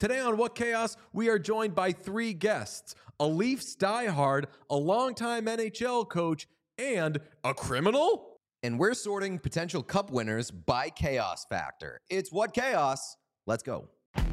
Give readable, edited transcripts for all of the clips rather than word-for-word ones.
Today on What Chaos, we are joined by three guests: a Leafs diehard, a longtime NHL coach, and a criminal? And we're sorting potential cup winners by chaos factor. It's What Chaos? Let's go.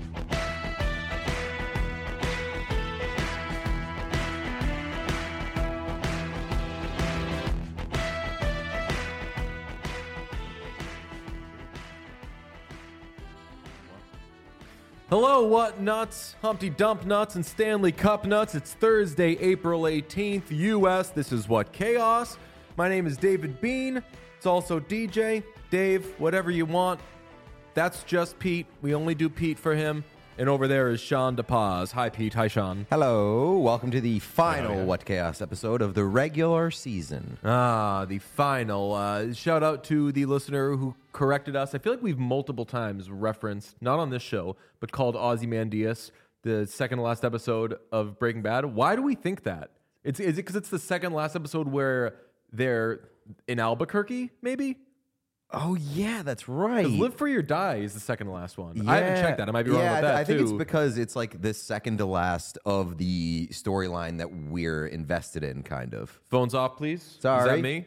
Hello, what nuts, Humpty Dump nuts, and Stanley Cup nuts. It's Thursday, April 18th, U.S. This is What Chaos. My name is David Bean. It's also DJ, Dave, whatever you want. That's just Pete. We only do Pete for him. And over there is Sean DePaz. Hi, Pete. Hi, Sean. Hello. Welcome to the final What Chaos episode of the regular season. The final. Shout out to the listener who corrected us. I feel like we've multiple times referenced, not on this show, but called Ozymandias, the second to last episode of Breaking Bad. Why do we think that? Is it because it's the second last episode where they're in Albuquerque, maybe? Oh, yeah, that's right. Live Free or Die is the second to last one. I haven't checked that. I might be wrong about that, I think too. it's because it's like the second to last of the storyline that we're invested in, kind of. Phones off, please. Sorry. Is that me?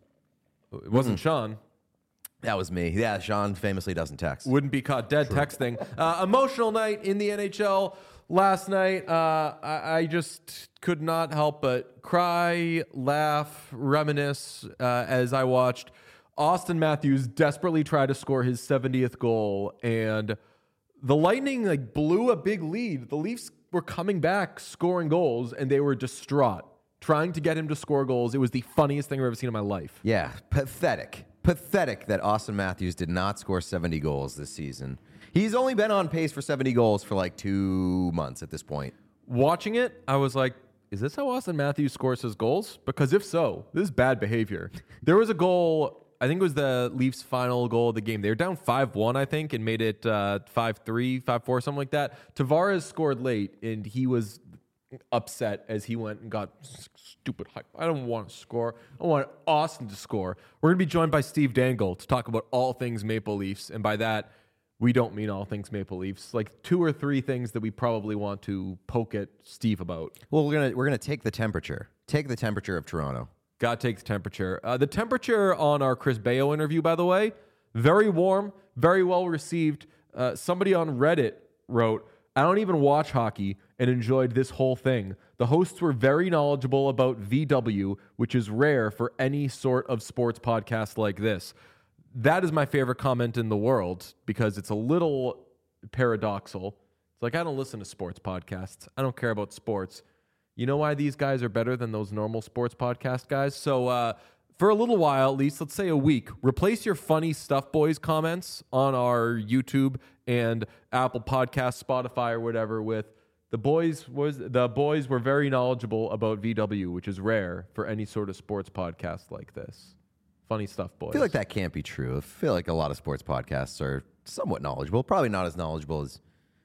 It wasn't Sean. That was me. Yeah, Sean famously doesn't text. Wouldn't be caught dead texting. Emotional night in the NHL last night. I just could not help but cry, laugh, reminisce as I watched Austin Matthews desperately try to score his 70th goal, and the Lightning blew a big lead. The Leafs were coming back, scoring goals, and they were distraught, trying to get him to score goals. It was the funniest thing I've ever seen in my life. Yeah, pathetic. Pathetic that Austin Matthews did not score 70 goals this season. He's only been on pace for 70 goals for like 2 months at this point. Watching it, I was like, is this how Austin Matthews scores his goals? Because if so, this is bad behavior. There was a goal, I think it was the Leafs' final goal of the game. They were down 5-1, I think, and made it 5-3, 5-4, something like that. Tavares scored late, and he was upset as he went and got stupid hype. I don't want to score. I want Austin to score. We're going to be joined by Steve Dangle to talk about all things Maple Leafs, and by that, we don't mean all things Maple Leafs. Like 2 or 3 things that we probably want to poke at Steve about. Well, we're gonna take the temperature. Take the temperature of Toronto. Got to take the temperature. The temperature on our Chris Bayo interview, by the way, very warm, very well received. Somebody on Reddit wrote, I don't even watch hockey and enjoyed this whole thing. The hosts were very knowledgeable about VW, which is rare for any sort of sports podcast like this. That is my favorite comment in the world because it's a little paradoxical. It's like, I don't listen to sports podcasts. I don't care about sports. You know why these guys are better than those normal sports podcast guys? So for a little while, at least, let's say a week, replace your funny stuff boys comments on our YouTube and Apple Podcasts, Spotify, or whatever with the boys were very knowledgeable about VW, which is rare for any sort of sports podcast like this. Funny stuff, boys. I feel like that can't be true. I feel like a lot of sports podcasts are somewhat knowledgeable. Probably not as knowledgeable as...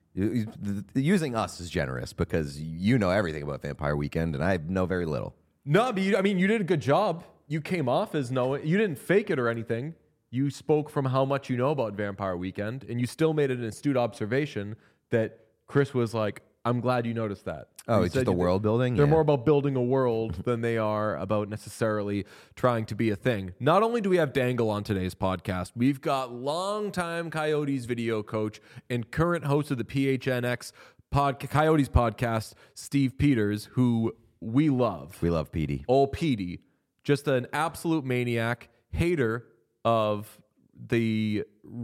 Using us is generous because you know everything about Vampire Weekend and I know very little. No, but you did a good job. You came off as knowing. You didn't fake it or anything. You spoke from how much you know about Vampire Weekend, and you still made an astute observation that Chris was like, I'm glad you noticed that. Oh, it's just the world building? They're more about building a world than they are about necessarily trying to be a thing. Not only do we have Dangle on today's podcast, we've got longtime Coyotes video coach and current host of the PHNX Coyotes podcast, Steve Peters, who we love. We love Petey. Old Petey. Just an absolute maniac, hater of the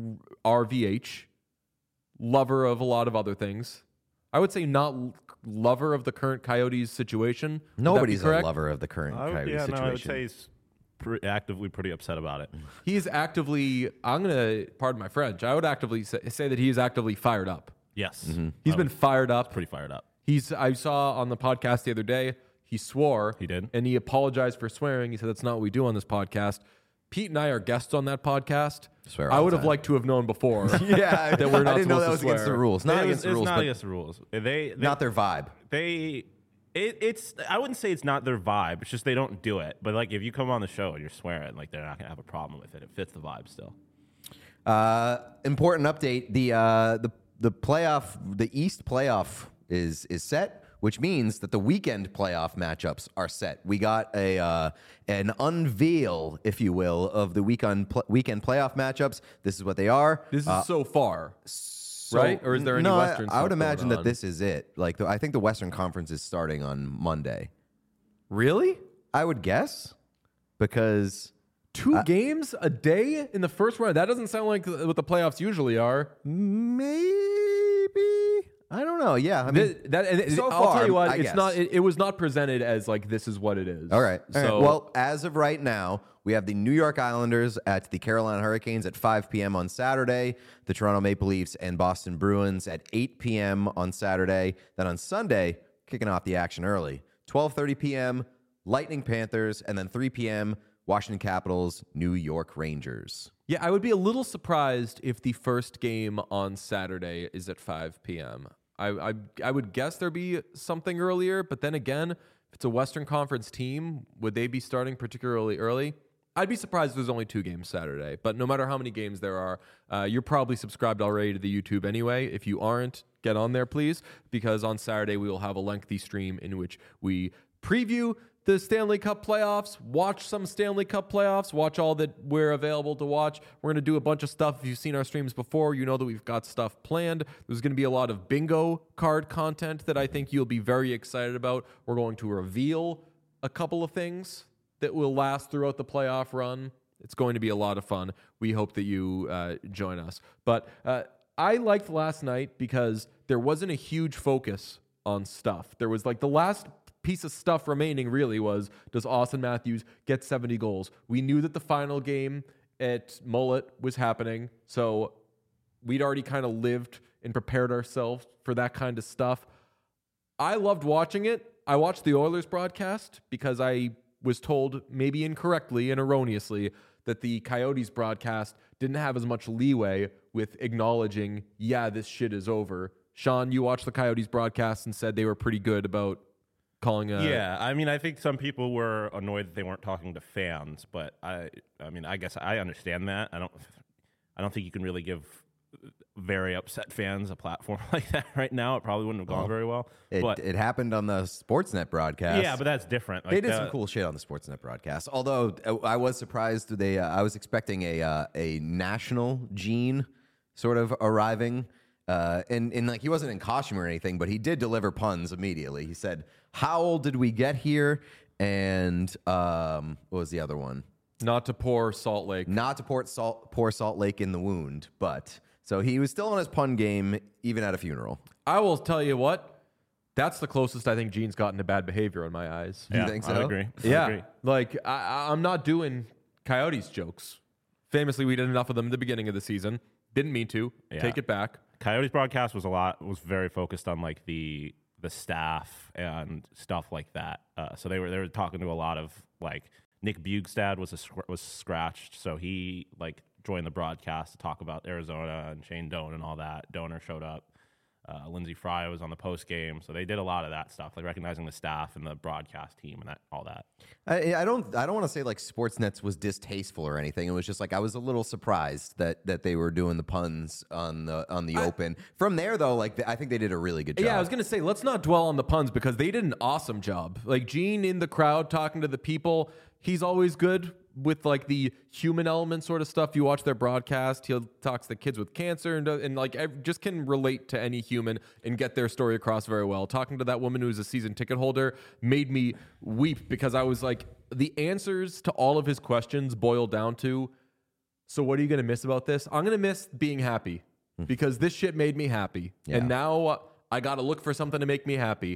RVH, lover of a lot of other things. I would say not lover of the current Coyotes situation. Nobody's a lover of the current Coyotes situation. No, I would say he's actively pretty upset about it. He's actively, I'm going to, pardon my French, I would actively say that he is actively fired up. Yes. Mm-hmm. He's been fired up. Pretty fired up. I saw on the podcast the other day, he swore. He did. And he apologized for swearing. He said, that's not what we do on this podcast. Pete and I are guests on that podcast. I would have liked to have known before. Yeah, that we're not I didn't know that was swear. against the rules. Not against the rules, not but against the rules. not their vibe. It's I wouldn't say it's not their vibe. It's just they don't do it. But like if you come on the show and you're swearing, like they're not gonna have a problem with it. It fits the vibe still. Important update: the the East playoff is set, which means that the weekend playoff matchups are set. We got an unveil, if you will, of the weekend playoff matchups. This is what they are. This is so far, right? Or is there any no, Western I would stuff imagine going that on? this is it. Like, I think the Western Conference is starting on Monday. Really? I would guess, because 2 games a day in the first round? That doesn't sound like what the playoffs usually are. maybe, I don't know. Yeah, I mean, so I'll far, tell you what, I it's guess. not. It was not presented as like this is what it is. All right. So Well, as of right now, we have the New York Islanders at the Carolina Hurricanes at 5 p.m. on Saturday, the Toronto Maple Leafs and Boston Bruins at 8 p.m. on Saturday. Then on Sunday, kicking off the action early, 12:30 p.m., Lightning Panthers, and then 3 p.m., Washington Capitals, New York Rangers. yeah, I would be a little surprised if the first game on Saturday is at 5 p.m. I would guess there'd be something earlier, but then again, if it's a Western Conference team, would they be starting particularly early? I'd be surprised if there's only 2 games Saturday, but no matter how many games there are, you're probably subscribed already to the YouTube anyway. If you aren't, get on there, please, because on Saturday we will have a lengthy stream in which we preview the Stanley Cup playoffs, watch some Stanley Cup playoffs, watch all that we're available to watch. We're going to do a bunch of stuff. If you've seen our streams before, you know that we've got stuff planned. There's going to be a lot of bingo card content that I think you'll be very excited about. We're going to reveal a couple of things that will last throughout the playoff run. It's going to be a lot of fun. We hope that you join us. But I liked last night because there wasn't a huge focus on stuff. There was like the last piece of stuff remaining really was, does Austin Matthews get 70 goals? We knew that the final game at Mullet was happening, so we'd already kind of lived and prepared ourselves for that kind of stuff. I loved watching it. I watched the Oilers broadcast because I was told, maybe incorrectly and erroneously, that the Coyotes broadcast didn't have as much leeway with acknowledging, yeah, this shit is over. Sean, you watched the Coyotes broadcast and said they were pretty good about calling a... Yeah, I mean, I think some people were annoyed that they weren't talking to fans, but I mean, I guess I understand that. I don't think you can really give very upset fans a platform like that right now. It probably wouldn't have gone very well. It happened on the Sportsnet broadcast. Yeah, but that's different. They did some cool shit on the Sportsnet broadcast. Although I was surprised, I was expecting a national Gene sort of arriving. And like he wasn't in costume or anything, but he did deliver puns immediately. He said, "How old did we get here?" And what was the other one? Not to pour Salt Lake. Not to pour Salt Lake in the wound, but so he was still on his pun game even at a funeral. I will tell you what, that's the closest I think Gene's gotten to bad behavior in my eyes. Do you think so? I agree. Yeah, I agree. like I'm not doing Coyotes jokes. Famously, we did enough of them at the beginning of the season. Didn't mean to. Yeah. Take it back. Coyotes broadcast was very focused on like the staff and stuff like that. So they were talking to a lot of like Nick Bugstad was scratched, so he like joined the broadcast to talk about Arizona and Shane Doan and all that. Donor showed up. Lindsey Fry was on the post game, so they did a lot of that stuff, like recognizing the staff and the broadcast team and all that. I don't want to say like Sportsnet was distasteful or anything. It was just like I was a little surprised that they were doing the puns on the open. From there though, like I think they did a really good job. Yeah, I was gonna say let's not dwell on the puns because they did an awesome job. Like Gene in the crowd talking to the people, he's always good with like the human element sort of stuff. You watch their broadcast, he talks to kids with cancer and like just can relate to any human and get their story across very well. Talking to that woman who was a season ticket holder made me weep because I was like, the answers to all of his questions boil down to, so what are you going to miss about this? I'm going to miss being happy because this shit made me happy. Yeah. And now I got to look for something to make me happy.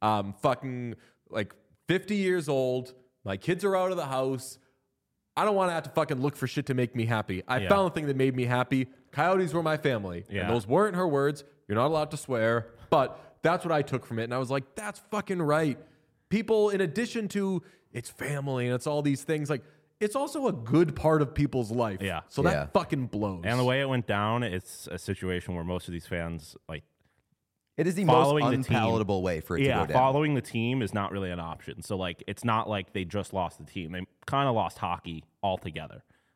Fucking like 50 years old. My kids are out of the house. I don't want to have to fucking look for shit to make me happy. I found the thing that made me happy. Coyotes were my family. Yeah. And those weren't her words. You're not allowed to swear. But that's what I took from it. And I was like, that's fucking right. People, in addition to it's family and it's all these things, like it's also a good part of people's life. Yeah. So that fucking blows. And the way it went down, it's a situation where most of these fans like it is the most following the unpalatable way for it to go down. Following the team is not really an option. So like, it's not like they just lost the team; they kind of lost hockey altogether.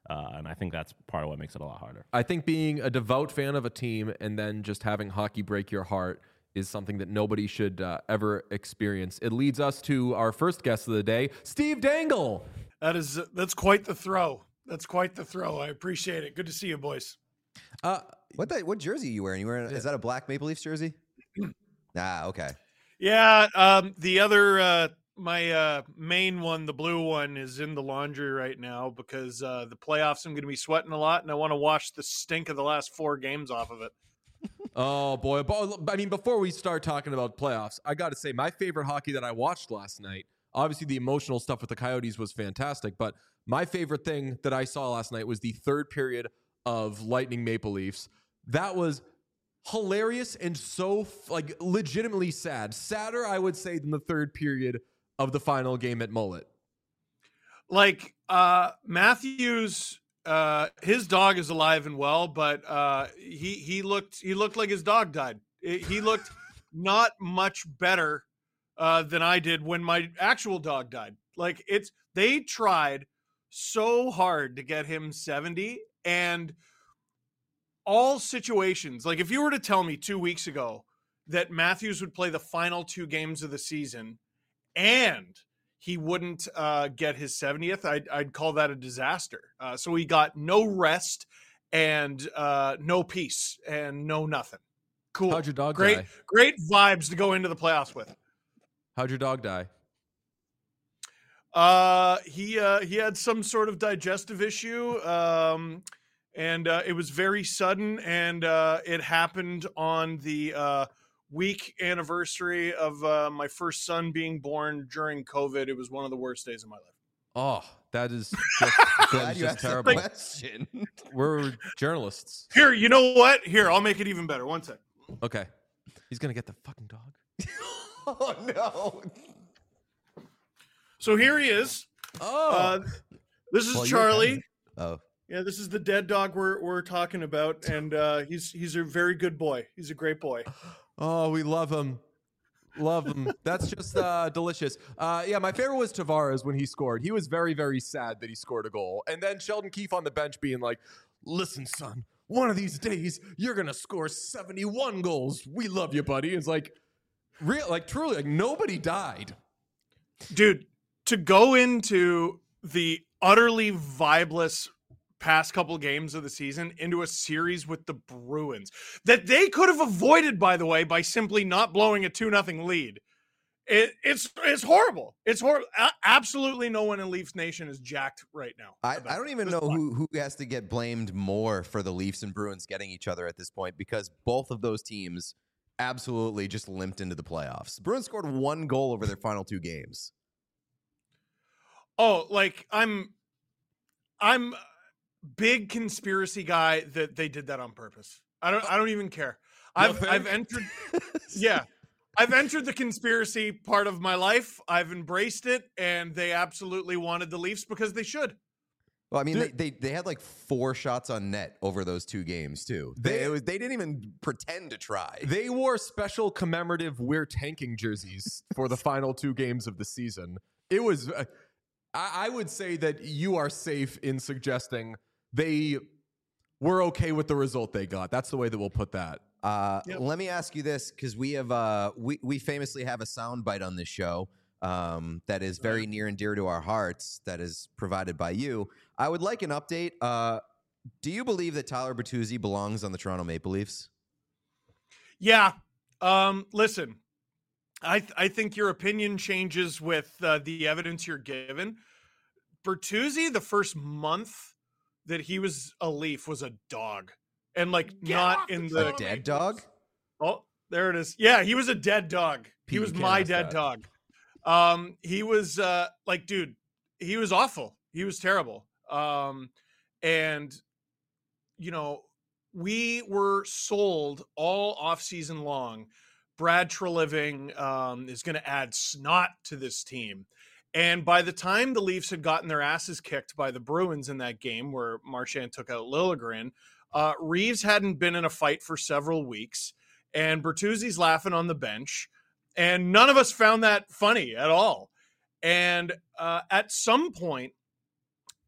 And I think that's part of what makes it a lot harder. I think being a devout fan of a team and then just having hockey break your heart is something that nobody should ever experience. It leads us to our first guest of the day, Steve Dangle. That's quite the throw. That's quite the throw. I appreciate it. Good to see you, boys. What jersey are you wearing? Is that a black Maple Leafs jersey? Okay. Yeah, the other my main one, the blue one, is in the laundry right now because the playoffs I'm going to be sweating a lot, and I want to wash the stink of the last 4 games off of it. Oh boy! I mean, before we start talking about playoffs, I got to say my favorite hockey that I watched last night. Obviously, the emotional stuff with the Coyotes was fantastic, but my favorite thing that I saw last night was the third period of Lightning Maple Leafs. That was hilarious and so legitimately sad. Sadder, I would say, than the third period of the final game at Mullet. Like Matthews, his dog is alive and well, but he looked like his dog died. He looked not much better than I did when my actual dog died. Like they tried so hard to get him 70, and all situations. Like if you were to tell me 2 weeks ago that Matthews would play the final 2 games of the season and he wouldn't get his 70th, I'd call that a disaster. So he got no rest and no peace and no nothing. Cool. How'd your dog die? Great vibes to go into the playoffs with. How'd your dog die? He had some sort of digestive issue, and it was very sudden, and it happened on the week anniversary of my first son being born during COVID. It was one of the worst days of my life. Oh, that is just, Glad you asked terrible. that question. We're journalists. Here, you know what? Here, I'll make it even better. One sec. Okay. He's going to get the fucking dog. Oh, no. So here he is. Oh. This is Well, Charlie. Oh. Yeah, this is the dead dog we're talking about, and he's a very good boy. He's a great boy. Oh, we love him. Love him. That's just delicious. Yeah, my favorite was Tavares when he scored. He was very, very sad that he scored a goal. And then Sheldon Keefe on the bench being like, listen, son, one of these days you're going to score 71 goals. We love you, buddy. It's like, truly, like nobody died. Dude, to go into the utterly vibeless past couple games of the season into a series with the Bruins that they could have avoided, by the way, by simply not blowing a 2-0 lead. It's horrible. It's horrible. Absolutely no one in Leafs Nation is jacked right now. I don't even know who has to get blamed more for the Leafs and Bruins getting each other at this point, because both of those teams absolutely just limped into the playoffs. The Bruins scored 1 goal over their final 2 games. Oh, like I'm big conspiracy guy that they did that on purpose. I don't even care. I've entered I've entered the conspiracy part of my life. I've embraced it, and they absolutely wanted the Leafs because they should. Well, I mean, they had like 4 shots on net over those 2 games too. They didn't even pretend to try. They wore special commemorative "We're tanking" jerseys for the final 2 games of the season. It was I would say that you are safe in suggesting they were okay with the result they got. That's the way that we'll put that. Let me ask you this, because we have we famously have a soundbite on this show that is very near and dear to our hearts, that is provided by you. I would like an update. Do you believe that Tyler Bertuzzi belongs on the Toronto Maple Leafs? Yeah. Listen, I think your opinion changes with the evidence you're given. Bertuzzi, the first month that he was a Leaf, was a dog. And not in the dead dog. Oh, there it is. Yeah, he was a dead dog. He was my dead dog. He was dude, he was awful. He was terrible. And we were sold all offseason long. Brad Treliving is going to add snot to this team. And by the time the Leafs had gotten their asses kicked by the Bruins in that game where Marchand took out Liljegren, Reeves hadn't been in a fight for several weeks, and Bertuzzi's laughing on the bench, and none of us found that funny at all. And at some point,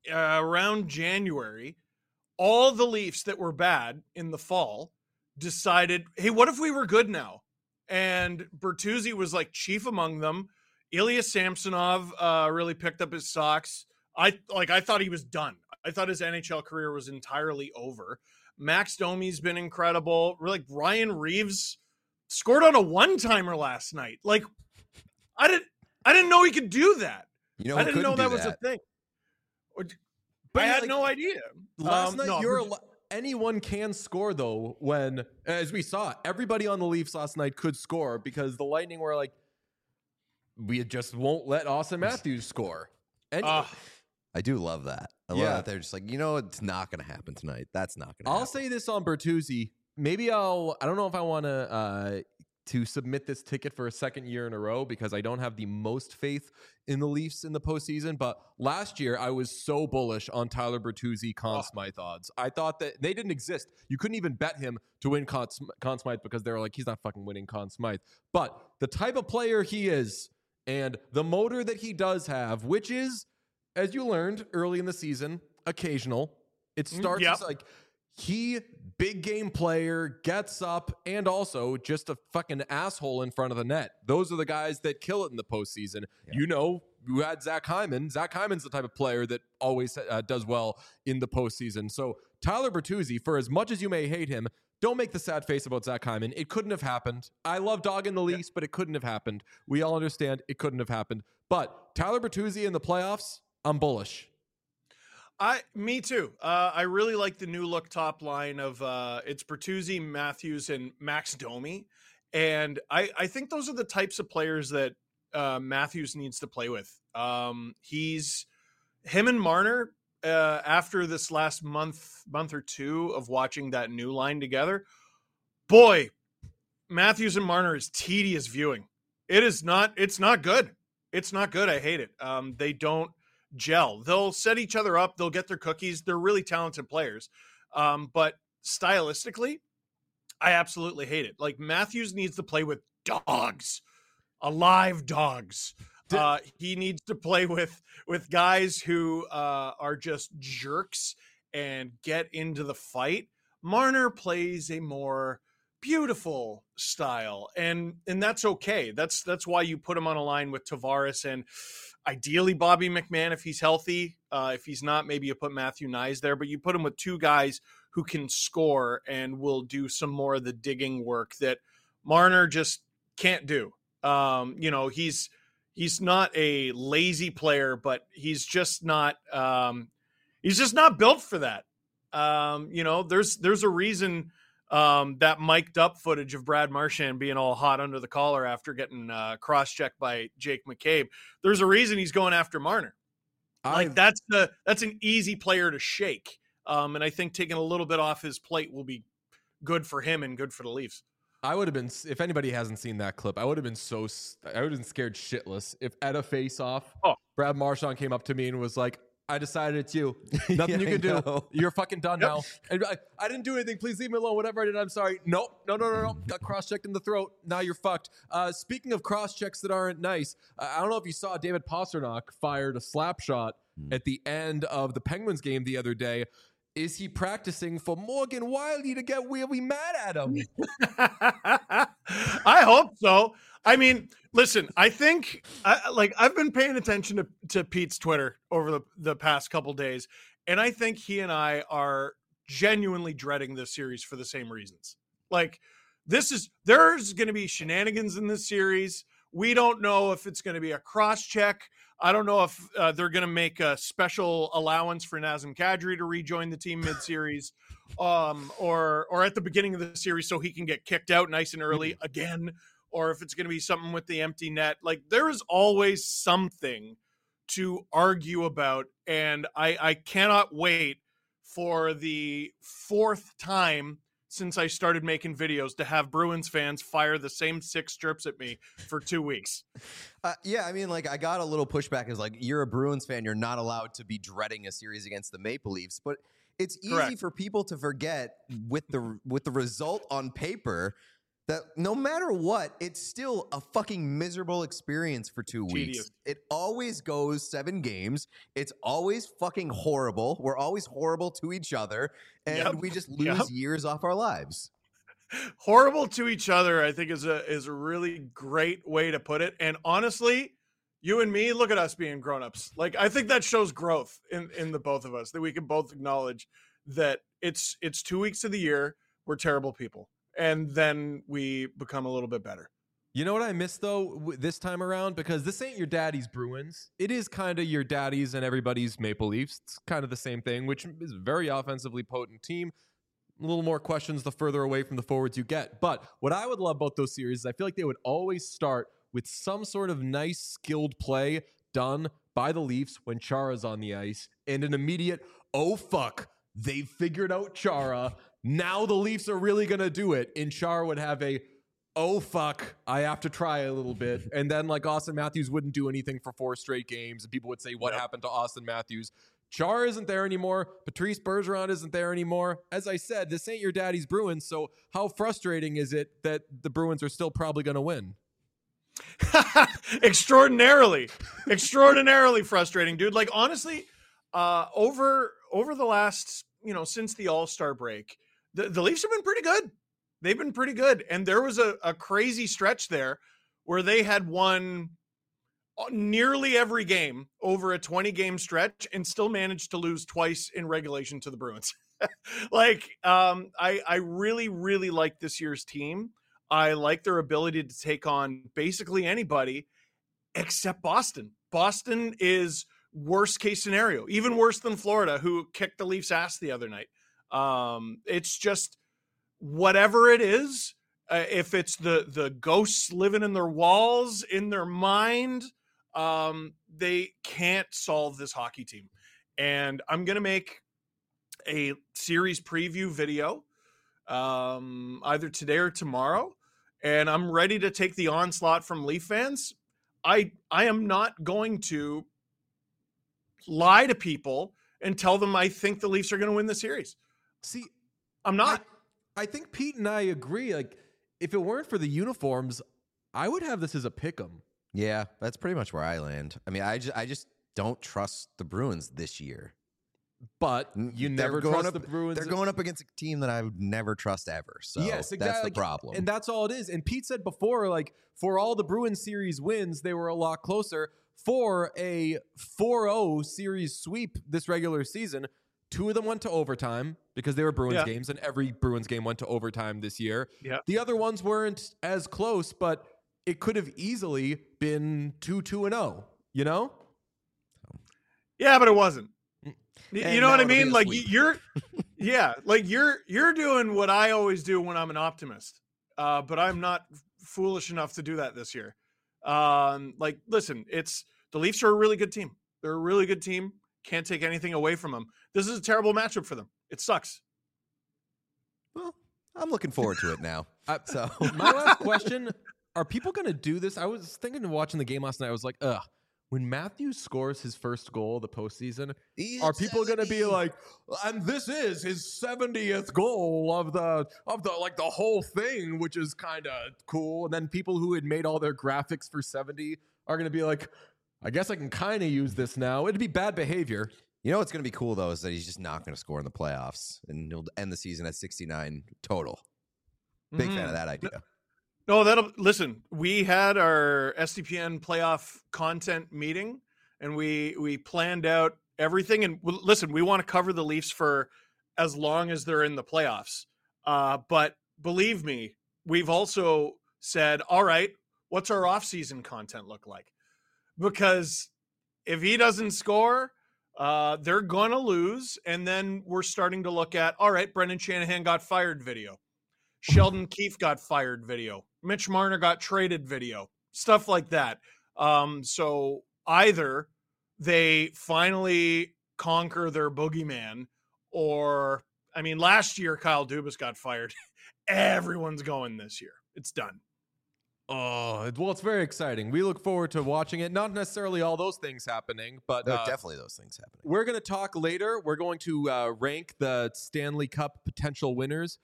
around January, all the Leafs that were bad in the fall decided, hey, what if we were good now? And Bertuzzi was like chief among them. Ilya Samsonov really picked up his socks. I thought he was done. I thought his NHL career was entirely over. Max Domi's been incredible. Like Ryan Reeves scored on a one-timer last night. Like I didn't know he could do that. You know, I didn't know that was a thing. But I had like, no idea. Last night, anyone can score though. When, as we saw, everybody on the Leafs last night could score because the Lightning were like, we just won't let Austin Matthews score. And I do love that. I love that they're just like, you know, it's not going to happen tonight. That's not going to happen. I'll say this on Bertuzzi. Maybe I don't know if I want to submit this ticket for a second year in a row because I don't have the most faith in the Leafs in the postseason. But last year, I was so bullish on Tyler Bertuzzi Conn Smythe odds. I thought that they didn't exist. You couldn't even bet him to win Conn Smythe because they were like, he's not fucking winning Conn Smythe. But the type of player he is and the motor that he does have, which is, as you learned early in the season, occasional. It starts as like he big game player, gets up, and also just a fucking asshole in front of the net. Those are the guys that kill it in the postseason. Yeah. You know, you had Zach Hyman. Zach Hyman's the type of player that always does well in the postseason. So Tyler Bertuzzi, for as much as you may hate him, don't make the sad face about Zach Hyman. It couldn't have happened. I love dogging the Leafs, but it couldn't have happened. We all understand it couldn't have happened. But Tyler Bertuzzi in the playoffs, I'm bullish. Me too. I really like the new look top line of it's Bertuzzi, Matthews, and Max Domi. And I think those are the types of players that Matthews needs to play with. Him and Marner, after this last month or two of watching that new line together, boy, Matthews and Marner is tedious viewing. It's not good. It's not good. I hate it. They don't gel. They'll set each other up. They'll get their cookies. They're really talented players. But stylistically, I absolutely hate it. Like Matthews needs to play with dogs, alive dogs. He needs to play with guys who are just jerks and get into the fight. Marner plays a more beautiful style, and that's okay. That's why you put him on a line with Tavares and ideally Bobby McMahon if he's healthy. If he's not, maybe you put Matthew Nyes there, but you put him with two guys who can score and will do some more of the digging work that Marner just can't do. He's not a lazy player, but he's just not built for that. There's a reason that mic'd up footage of Brad Marchand being all hot under the collar after getting cross-checked by Jake McCabe. There's a reason he's going after Marner. That's an easy player to shake. And I think taking a little bit off his plate will be good for him and good for the Leafs. I would have been, if anybody hasn't seen that clip, I would have been scared shitless if at a face-off, Brad Marchand came up to me and was like, I decided it's you. Nothing you can do. You're fucking done now. And I didn't do anything. Please leave me alone. Whatever I did, I'm sorry. No. Got cross-checked in the throat. Now you're fucked. Speaking of cross-checks that aren't nice, I don't know if you saw David Pastrnak fired a slap shot at the end of the Penguins game the other day. Is he practicing for Morgan Wiley to get really mad at him? I hope so. I mean, listen, I think I've been paying attention to Pete's Twitter over the past couple days, and I think he and I are genuinely dreading this series for the same reasons. Like, there's going to be shenanigans in this series. We don't know if it's going to be a cross-check. I don't know if they're going to make a special allowance for Nazem Kadri to rejoin the team mid-series, or at the beginning of the series so he can get kicked out nice and early again, or if it's going to be something with the empty net. Like, there is always something to argue about, and I cannot wait for the fourth time since I started making videos to have Bruins fans fire the same 6 strips at me for 2 weeks. Yeah, I mean, like, I got a little pushback. Is like, you're a Bruins fan. You're not allowed to be dreading a series against the Maple Leafs. But it's easy for people to forget with the result on paper. that no matter what, it's still a fucking miserable experience for 2 weeks. Tedious. It always goes 7 games. It's always fucking horrible. We're always horrible to each other, and Yep. we just lose years off our lives. Horrible to each other, I think, is a really great way to put it. And honestly, you and me, look at us being grown-ups. Like, I think that shows growth in the both of us, that we can both acknowledge that it's 2 weeks of the year, we're terrible people, and then we become a little bit better. You know what I missed though this time around? Because this ain't your daddy's Bruins. It is kind of your daddy's and everybody's Maple Leafs. It's kind of the same thing, which is a very offensively potent team. A little more questions the further away from the forwards you get. But what I would love about those series is I feel like they would always start with some sort of nice skilled play done by the Leafs when Chara's on the ice, and an immediate, oh fuck, they've figured out Chara. Now the Leafs are really going to do it. And Chara would have a, oh fuck, I have to try a little bit. And then like Austin Matthews wouldn't do anything for 4 straight games. And people would say, what happened to Austin Matthews? Chara isn't there anymore. Patrice Bergeron isn't there anymore. As I said, this ain't your daddy's Bruins. So how frustrating is it that the Bruins are still probably going to win? extraordinarily frustrating, dude. Like, honestly, over the last, since the All-Star break, the Leafs have been pretty good. They've been pretty good. And there was a crazy stretch there where they had won nearly every game over a 20-game stretch and still managed to lose twice in regulation to the Bruins. Like, I really, really like this year's team. I like their ability to take on basically anybody except Boston. Boston is worst case scenario, even worse than Florida, who kicked the Leafs' ass the other night. It's just whatever it is, if it's the ghosts living in their walls, in their mind, they can't solve this hockey team. And I'm going to make a series preview video either today or tomorrow, and I'm ready to take the onslaught from Leaf fans. I am not going to lie to people and tell them I think the Leafs are going to win the series. See, I'm not. I think Pete and I agree. Like, if it weren't for the uniforms, I would have this as a pick'em. Yeah, that's pretty much where I land. I mean, I just don't trust the Bruins this year. But you never trust the Bruins. They're going up against a team that I would never trust ever. So yes, exactly. That's the problem. And that's all it is. And Pete said before, like, for all the Bruins series wins, they were a lot closer. For a 4-0 series sweep this regular season, 2 of them went to overtime because they were Bruins games, and every Bruins game went to overtime this year. Yeah. The other ones weren't as close, but it could have easily been 2-2-0, you know? Yeah, but it wasn't. You know what I mean? Like, sweep. you're doing what I always do when I'm an optimist. But I'm not foolish enough to do that this year. Like, listen, the Leafs are a really good team. They're a really good team. Can't take anything away from them. This is a terrible matchup for them. It sucks. Well, I'm looking forward to it now. So my last question, are people going to do this? I was thinking of watching the game last night. I was like, when Matthews scores his first goal of the postseason, are people going to be like, and this is his 70th goal of the like the whole thing, which is kind of cool. And then people who had made all their graphics for 70 are going to be like, I guess I can kind of use this now. It'd be bad behavior. You know what's going to be cool, though, is that he's just not going to score in the playoffs, and he'll end the season at 69 total. Big fan of that idea. No, listen, we had our SDPN playoff content meeting, and we planned out everything. And listen, we want to cover the Leafs for as long as they're in the playoffs. But believe me, we've also said, all right, what's our off-season content look like? Because if he doesn't score, they're going to lose. And then we're starting to look at, all right, Brendan Shanahan got fired video. Sheldon Keefe got fired video. Mitch Marner got traded video. Stuff like that. So either they finally conquer their boogeyman, or, I mean, last year Kyle Dubas got fired. Everyone's going this year. It's done. Oh, well, it's very exciting. We look forward to watching it. Not necessarily all those things happening, but No, definitely those things happening. We're going to talk later. We're going to rank the Stanley Cup potential winners.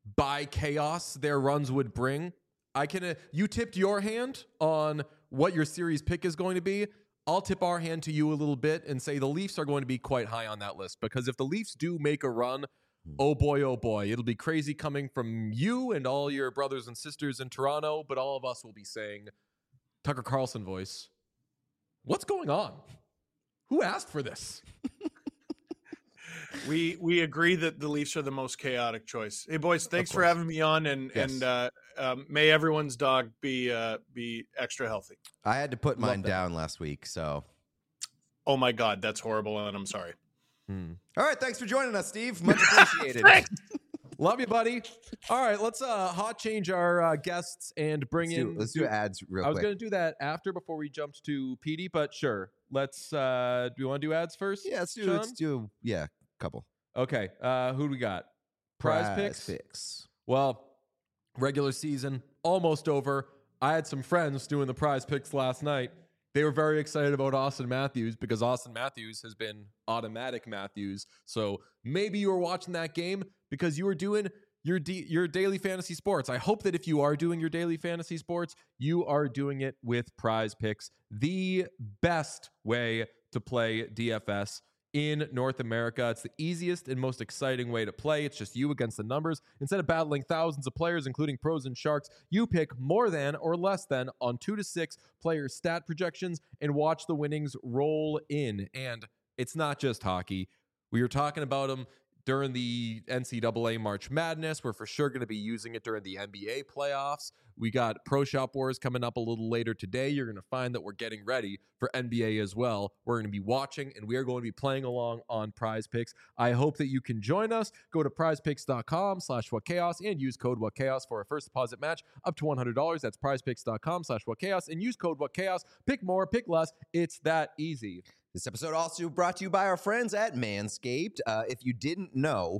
by chaos their runs would bring. You tipped your hand on what your series pick is going to be. I'll tip our hand to you a little bit and say the Leafs are going to be quite high on that list, because if the Leafs do make a run, oh boy, it'll be crazy coming from you and all your brothers and sisters in Toronto, but all of us will be saying, Tucker Carlson voice, what's going on? Who asked for this? We agree that the Leafs are the most chaotic choice. Hey boys, thanks for having me on, and may everyone's dog be extra healthy. I had to put mine down last week, so. Oh my God, that's horrible, and I'm sorry. All right, thanks for joining us, Steve. Much appreciated. Love you, buddy. All right, let's hot change our guests and let's do ads real quick. I was going to do that before we jumped to PD, but sure. Let's. Do you want to do ads first? Yeah, let's do couple. Okay, who do we got? Prize picks. Well, regular season almost over. I had some friends doing the prize picks last night. They were very excited about Austin Matthews because Austin Matthews has been automatic Matthews. So maybe you were watching that game because you were doing your daily fantasy sports. I hope that if you are doing your daily fantasy sports, you are doing it with Prize Picks, the best way to play DFS in North America. It's the easiest and most exciting way to play. It's just you against the numbers. Instead of battling thousands of players, including pros and sharks, you pick more than or less than on 2 to 6 player stat projections and watch the winnings roll in. And it's not just hockey. We were talking about them during the NCAA March Madness. We're for sure going to be using it during the NBA playoffs. We got Pro Shop Wars coming up a little later today. You're going to find that we're getting ready for NBA as well. We're going to be watching, and we are going to be playing along on Prize Picks. I hope that you can join us. Go to prizepicks.com/whatchaos and use code whatchaos for a first deposit match up to $100. That's prizepicks.com/whatchaos and use code whatchaos. Pick more, pick less. It's that easy. This episode also brought to you by our friends at Manscaped. If you didn't know,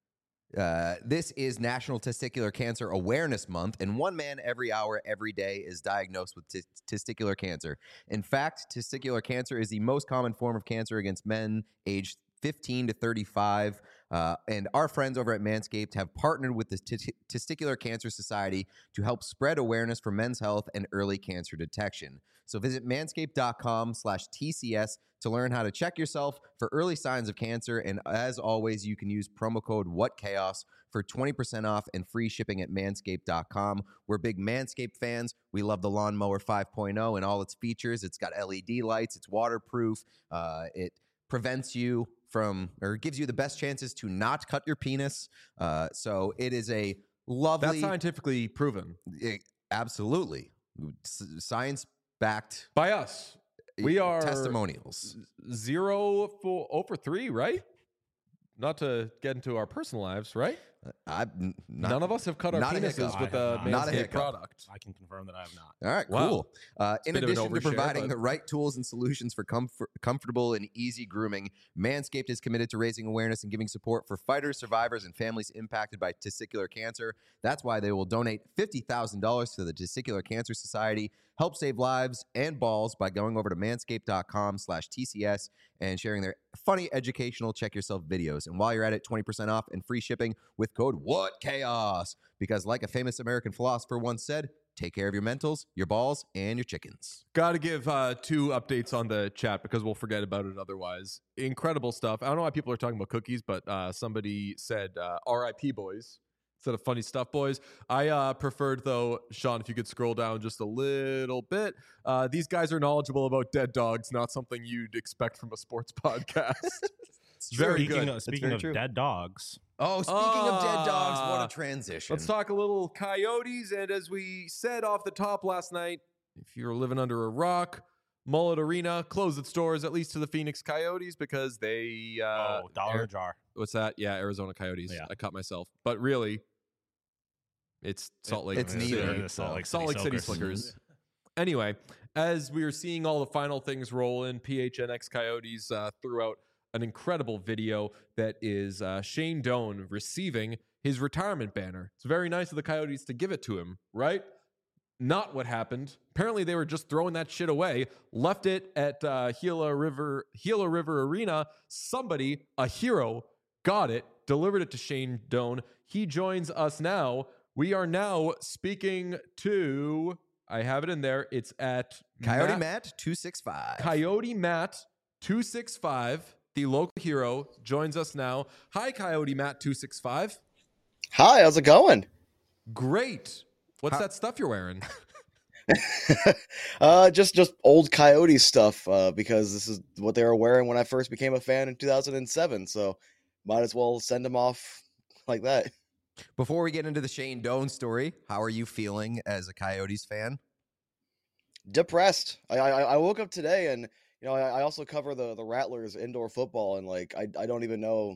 this is National Testicular Cancer Awareness Month, and 1 man every hour, every day is diagnosed with testicular cancer. In fact, testicular cancer is the most common form of cancer against men aged 15 to 35. And our friends over at Manscaped have partnered with the Testicular Cancer Society to help spread awareness for men's health and early cancer detection. So visit manscaped.com/TCS to learn how to check yourself for early signs of cancer. And as always, you can use promo code WhatChaos for 20% off and free shipping at manscaped.com. We're big Manscaped fans. We love the Lawnmower 5.0 and all its features. It's got LED lights. It's waterproof. It prevents you from, or gives you the best chances to not cut your penis. So it is a lovely... That's scientifically proven. Absolutely. Science-backed. By us. We are testimonials. 0 for 3, right? Not to get into our personal lives, right? None of us have cut our penises with a Manscaped product. I can confirm that I have not. All right, cool. In addition to providing the right tools and solutions for comfortable and easy grooming, Manscaped is committed to raising awareness and giving support for fighters, survivors, and families impacted by testicular cancer. That's why they will donate $50,000 to the Testicular Cancer Society. Help save lives and balls by going over to manscaped.com/TCS and sharing their funny, educational, check yourself videos. And while you're at it, 20% off and free shipping with code WhatChaos. Because like a famous American philosopher once said, take care of your mentals, your balls, and your chickens. Got to give 2 updates on the chat because we'll forget about it otherwise. Incredible stuff. I don't know why people are talking about cookies, but somebody said RIP boys. Instead of funny stuff, boys. I preferred, though, Sean, if you could scroll down just a little bit. These guys are knowledgeable about dead dogs, not something you'd expect from a sports podcast. Very good. Speaking of dead dogs. Oh, speaking of dead dogs, what a transition. Let's talk a little Coyotes. And as we said off the top last night, if you're living under a rock, Mullet Arena closed its doors, at least to the Phoenix Coyotes, because they... dollar a jar. What's that? Yeah, Arizona Coyotes. Yeah. I caught myself. But really... It's Salt Lake. It's neither. Salt Lake City Slickers. Anyway, as we were seeing all the final things roll in, PHNX Coyotes threw out an incredible video that is Shane Doan receiving his retirement banner. It's very nice of the Coyotes to give it to him, right? Not what happened. Apparently, they were just throwing that shit away, left it at Gila River Arena. Somebody, a hero, got it, delivered it to Shane Doan. He joins us now. We are now speaking to, I have it in there. It's at Coyote Matt 265. Coyote Matt 265, the local hero, joins us now. Hi, Coyote Matt 265. Hi, how's it going? Great. What's that stuff you're wearing? Just old Coyote stuff, because this is what they were wearing when I first became a fan in 2007. So might as well send them off like that. Before we get into the Shane Doan story, how are you feeling as a Coyotes fan? Depressed. I woke up today and, you know, I also cover the Rattlers indoor football, and like, I don't even know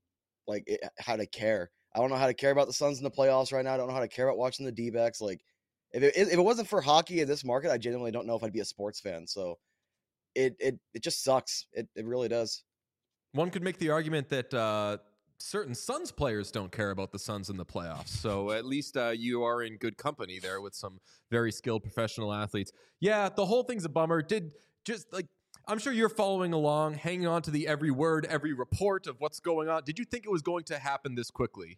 how to care. I don't know how to care about the Suns in the playoffs right now. I don't know how to care about watching the D-backs. Like, if it wasn't for hockey in this market, I genuinely don't know if I'd be a sports fan. So it just sucks. It really does. One could make the argument that certain Suns players don't care about the Suns in the playoffs. So at least you are in good company there with some very skilled professional athletes. Yeah, the whole thing's a bummer. I'm sure you're following along, hanging on to the every word, every report of what's going on. Did you think it was going to happen this quickly?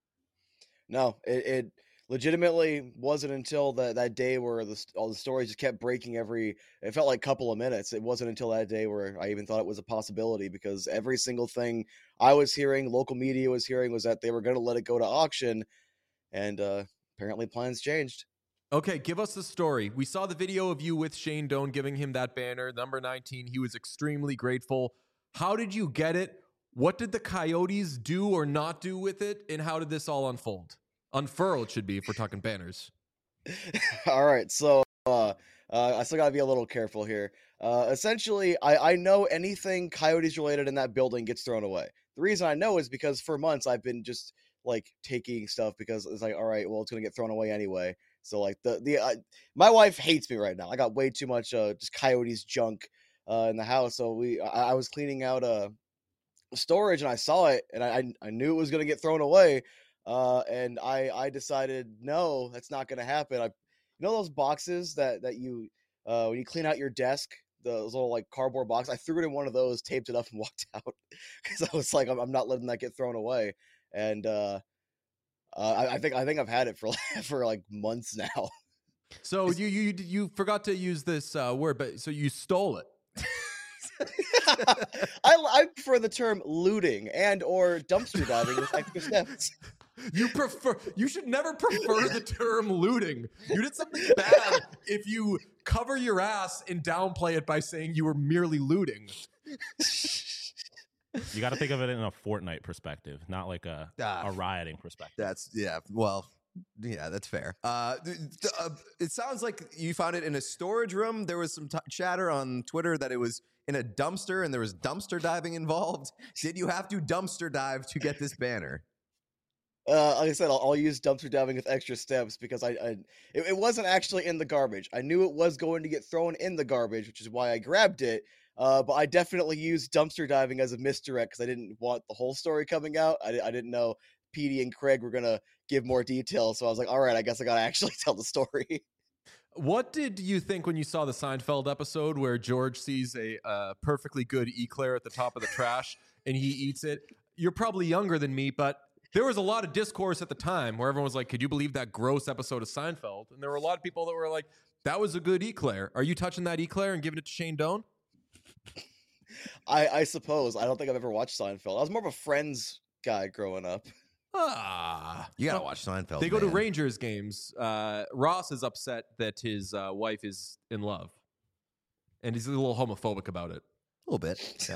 No, it legitimately wasn't until that day where all the stories just kept breaking it felt like a couple of minutes. It wasn't until that day where I even thought it was a possibility, because every single thing I was hearing, local media was hearing, was that they were going to let it go to auction, and apparently plans changed. Okay, give us the story. We saw the video of you with Shane Doan giving him that banner, number 19. He was extremely grateful. How did you get it? What did the Coyotes do or not do with it? And how did this all unfold? Unfurl, it should be, if we're talking banners. All right, so I still got to be a little careful here. Essentially, I know anything Coyotes related in that building gets thrown away. The reason I know is because for months I've been just like taking stuff because it's like, all right, well, it's going to get thrown away anyway. So like my wife hates me right now. I got way too much just Coyotes junk in the house. So I was cleaning out storage and I saw it and I knew it was going to get thrown away. And I decided, no, that's not going to happen. You know those boxes that you when you clean out your desk, those little like cardboard box, I threw it in one of those, taped it up, and walked out because I was like, I'm not letting that get thrown away. And I think I've had it for like months now. So you forgot to use this word, but so you stole it. I prefer the term looting and or dumpster diving with extra steps. You should never prefer the term looting. You did something bad if you cover your ass and downplay it by saying you were merely looting. You got to think of it in a Fortnite perspective, not like a rioting perspective. That's that's fair. It sounds like you found it in a storage room. There was some chatter on Twitter that it was in a dumpster and there was dumpster diving involved. Did you have to dumpster dive to get this banner? Like I said, I'll use dumpster diving with extra steps because it wasn't actually in the garbage. I knew it was going to get thrown in the garbage, which is why I grabbed it. But I definitely used dumpster diving as a misdirect because I didn't want the whole story coming out. I didn't know Petey and Craig were going to give more details. So I was like, all right, I guess I got to actually tell the story. What did you think when you saw the Seinfeld episode where George sees a perfectly good eclair at the top of the trash and he eats it? You're probably younger than me, but there was a lot of discourse at the time where everyone was like, could you believe that gross episode of Seinfeld? And there were a lot of people that were like, that was a good eclair. Are you touching that eclair and giving it to Shane Doan? I suppose. I don't think I've ever watched Seinfeld. I was more of a Friends guy growing up. You gotta watch Seinfeld. They go to Rangers games. Ross is upset that his wife is in love, and he's a little homophobic about it. A little bit,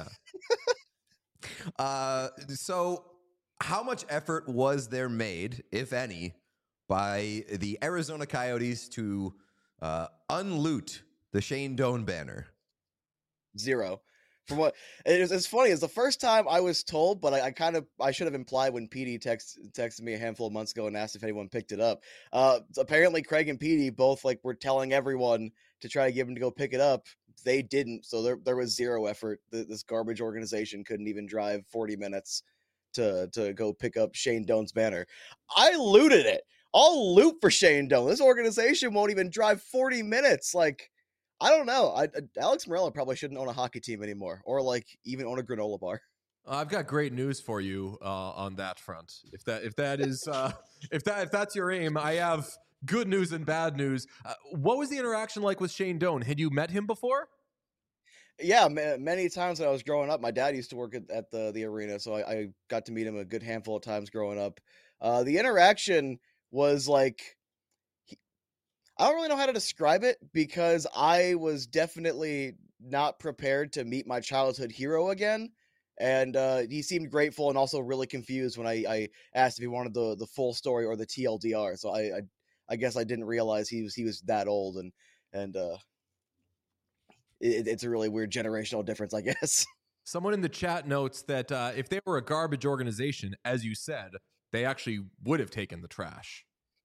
yeah. So how much effort was there made, if any, by the Arizona Coyotes to unloot the Shane Doan banner? Zero. From what it's funny is the first time I was told, but I should have implied when Petey texted me a handful of months ago and asked if anyone picked it up. Apparently Craig and Petey both like were telling everyone to try to get him to go pick it up. They didn't, so there was zero effort. This garbage organization couldn't even drive 40 minutes to go pick up Shane Doan's banner. I looted it. I'll loot for Shane Doan. This organization won't even drive 40 minutes. Like, I don't know. Alex Morella probably shouldn't own a hockey team anymore, or like even own a granola bar. I've got great news for you on that front. If that is if that's your aim, I have good news and bad news. What was the interaction like with Shane Doan? Had you met him before? Yeah, many times when I was growing up, my dad used to work at the arena, so I got to meet him a good handful of times growing up. The interaction was like, I don't really know how to describe it because I was definitely not prepared to meet my childhood hero again. And he seemed grateful and also really confused when I asked if he wanted the full story or the TLDR. So I guess I didn't realize he was that old, and it's a really weird generational difference, I guess. Someone in the chat notes that if they were a garbage organization, as you said, they actually would have taken the trash.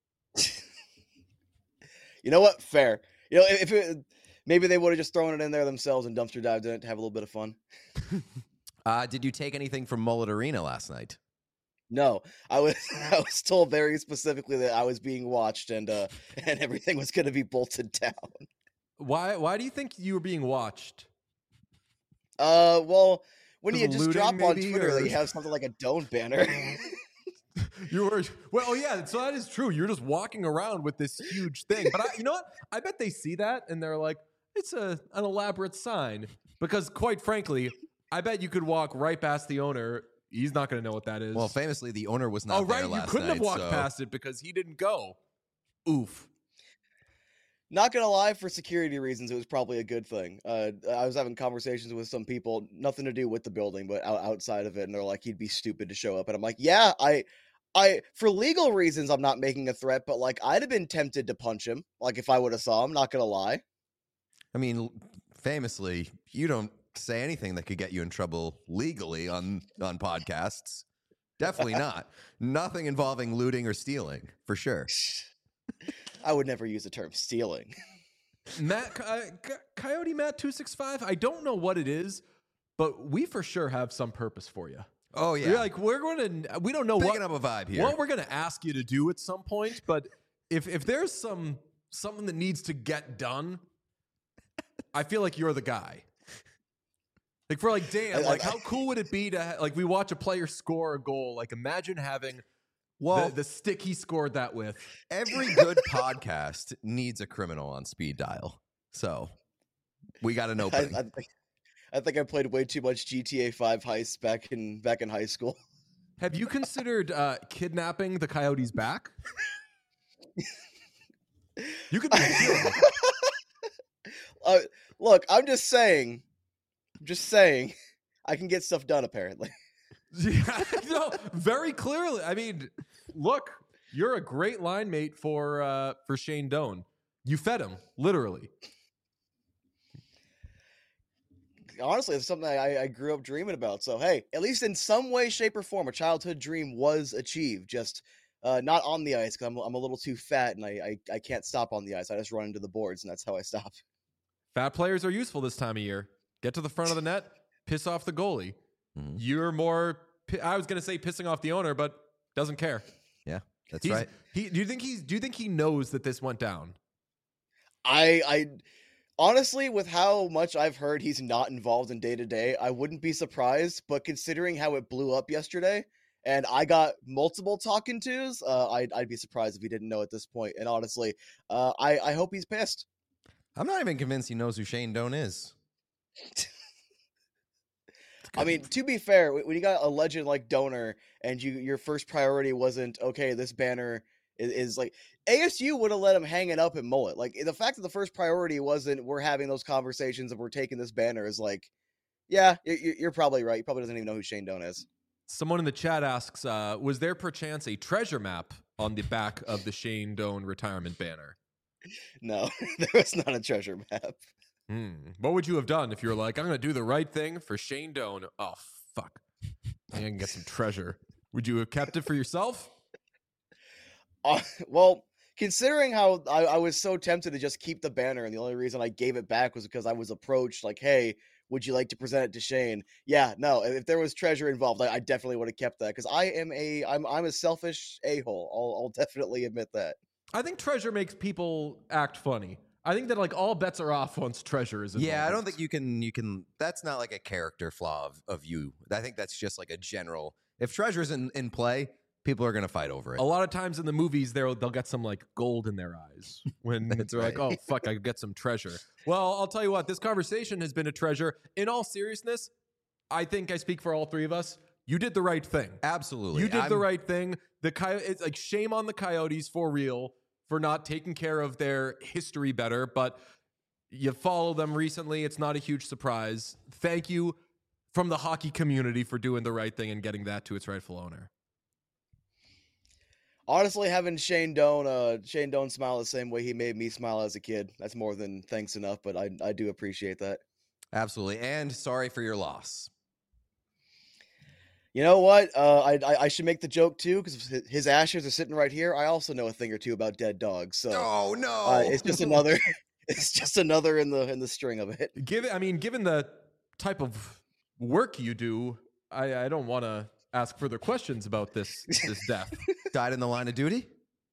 You know what? Fair. You know, maybe they would have just thrown it in there themselves and dumpster dived in it to have a little bit of fun. Did you take anything from Mullet Arena last night? No, I was told very specifically that I was being watched and everything was going to be bolted down. Why do you think you were being watched? Well, when you just looting, drop on maybe, Twitter or- that you have something like a Doan banner. You were yeah. So that is true. You're just walking around with this huge thing. But you know what? I bet they see that and they're like, it's an elaborate sign. Because quite frankly, I bet you could walk right past the owner. He's not going to know what that is. Well, famously, the owner was not there right. You last couldn't night. have walked so- past it because he didn't go. Oof. Not gonna lie, for security reasons, it was probably a good thing. I was having conversations with some people, nothing to do with the building, but outside of it, and they're like, "He'd be stupid to show up," and I'm like, "Yeah, I, for legal reasons, I'm not making a threat, but like, I'd have been tempted to punch him, like if I would have saw him. Not gonna lie." I mean, famously, you don't say anything that could get you in trouble legally on podcasts. Definitely not. Nothing involving looting or stealing, for sure. I would never use the term stealing. Matt, Coyote Matt 265. I don't know what it is, but we for sure have some purpose for you. Oh yeah, We're going to. We don't know picking up a vibe here. what we're going to ask you to do at some point, but if there's something that needs to get done, I feel like you're the guy. Like for like Dan, like how cool would it be to like we watch a player score a goal? Like imagine having the stick he scored that with. Every good podcast needs a criminal on speed dial. So we got an opening. I think I played way too much GTA 5 Heist back in high school. Have you considered kidnapping the Coyotes back? You could be a hero. Look, I'm just saying, I can get stuff done apparently. Yeah, no, very clearly. I mean, look, you're a great line mate for Shane Doan. You fed him, literally. Honestly, it's something I grew up dreaming about. So hey, at least in some way, shape, or form, a childhood dream was achieved. Just not on the ice because I'm a little too fat and I can't stop on the ice. I just run into the boards and that's how I stop. Fat players are useful this time of year. Get to the front of the net, piss off the goalie. Mhm. You're more. I was going to say pissing off the owner, but doesn't care. Yeah, that's He's- right. Do you think he knows that this went down? I honestly, with how much I've heard he's not involved in day to day, I wouldn't be surprised. But considering how it blew up yesterday, and I got multiple talking tos, I'd be surprised if he didn't know at this point. And honestly, I hope he's pissed. I'm not even convinced he knows who Shane Doan is. I mean, to be fair, when you got a legend like Donor and your first priority wasn't, okay, this banner is like, ASU would have let him hang it up in Mullet. Like, the fact that the first priority wasn't, we're having those conversations and we're taking this banner is like, yeah, you're probably right. He probably doesn't even know who Shane Doan is. Someone in the chat asks, was there perchance a treasure map on the back of the Shane Doan retirement banner? No, there was not a treasure map. What would you have done if you were like, I'm going to do the right thing for Shane Doan? Oh, fuck. I can get some treasure. Would you have kept it for yourself? Well, considering how I was so tempted to just keep the banner, and the only reason I gave it back was because I was approached like, hey, would you like to present it to Shane? Yeah, no, if there was treasure involved, I definitely would have kept that because I'm a selfish a-hole. I'll definitely admit that. I think treasure makes people act funny. I think that like all bets are off once Treasure is involved. Yeah, I don't think you can. That's not like a character flaw of you. I think that's just like a general. If Treasure's in play, people are going to fight over it. A lot of times in the movies, they'll get some like gold in their eyes when they're like, "Oh fuck, I could get some treasure." Well, I'll tell you what, this conversation has been a treasure. In all seriousness, I think I speak for all three of us. You did the right thing. Absolutely, You did the right thing. It's like shame on the Coyotes for real for not taking care of their history better, but you follow them recently. It's not a huge surprise. Thank you from the hockey community for doing the right thing and getting that to its rightful owner. Honestly, having Shane Doan smile the same way he made me smile as a kid, that's more than thanks enough, but I do appreciate that. Absolutely. And sorry for your loss. You know what? I should make the joke too, because his ashes are sitting right here. I also know a thing or two about dead dogs, so Oh no! it's just another. It's just another in the string of it. Given the type of work you do, I don't want to ask further questions about this death. Died in the line of duty.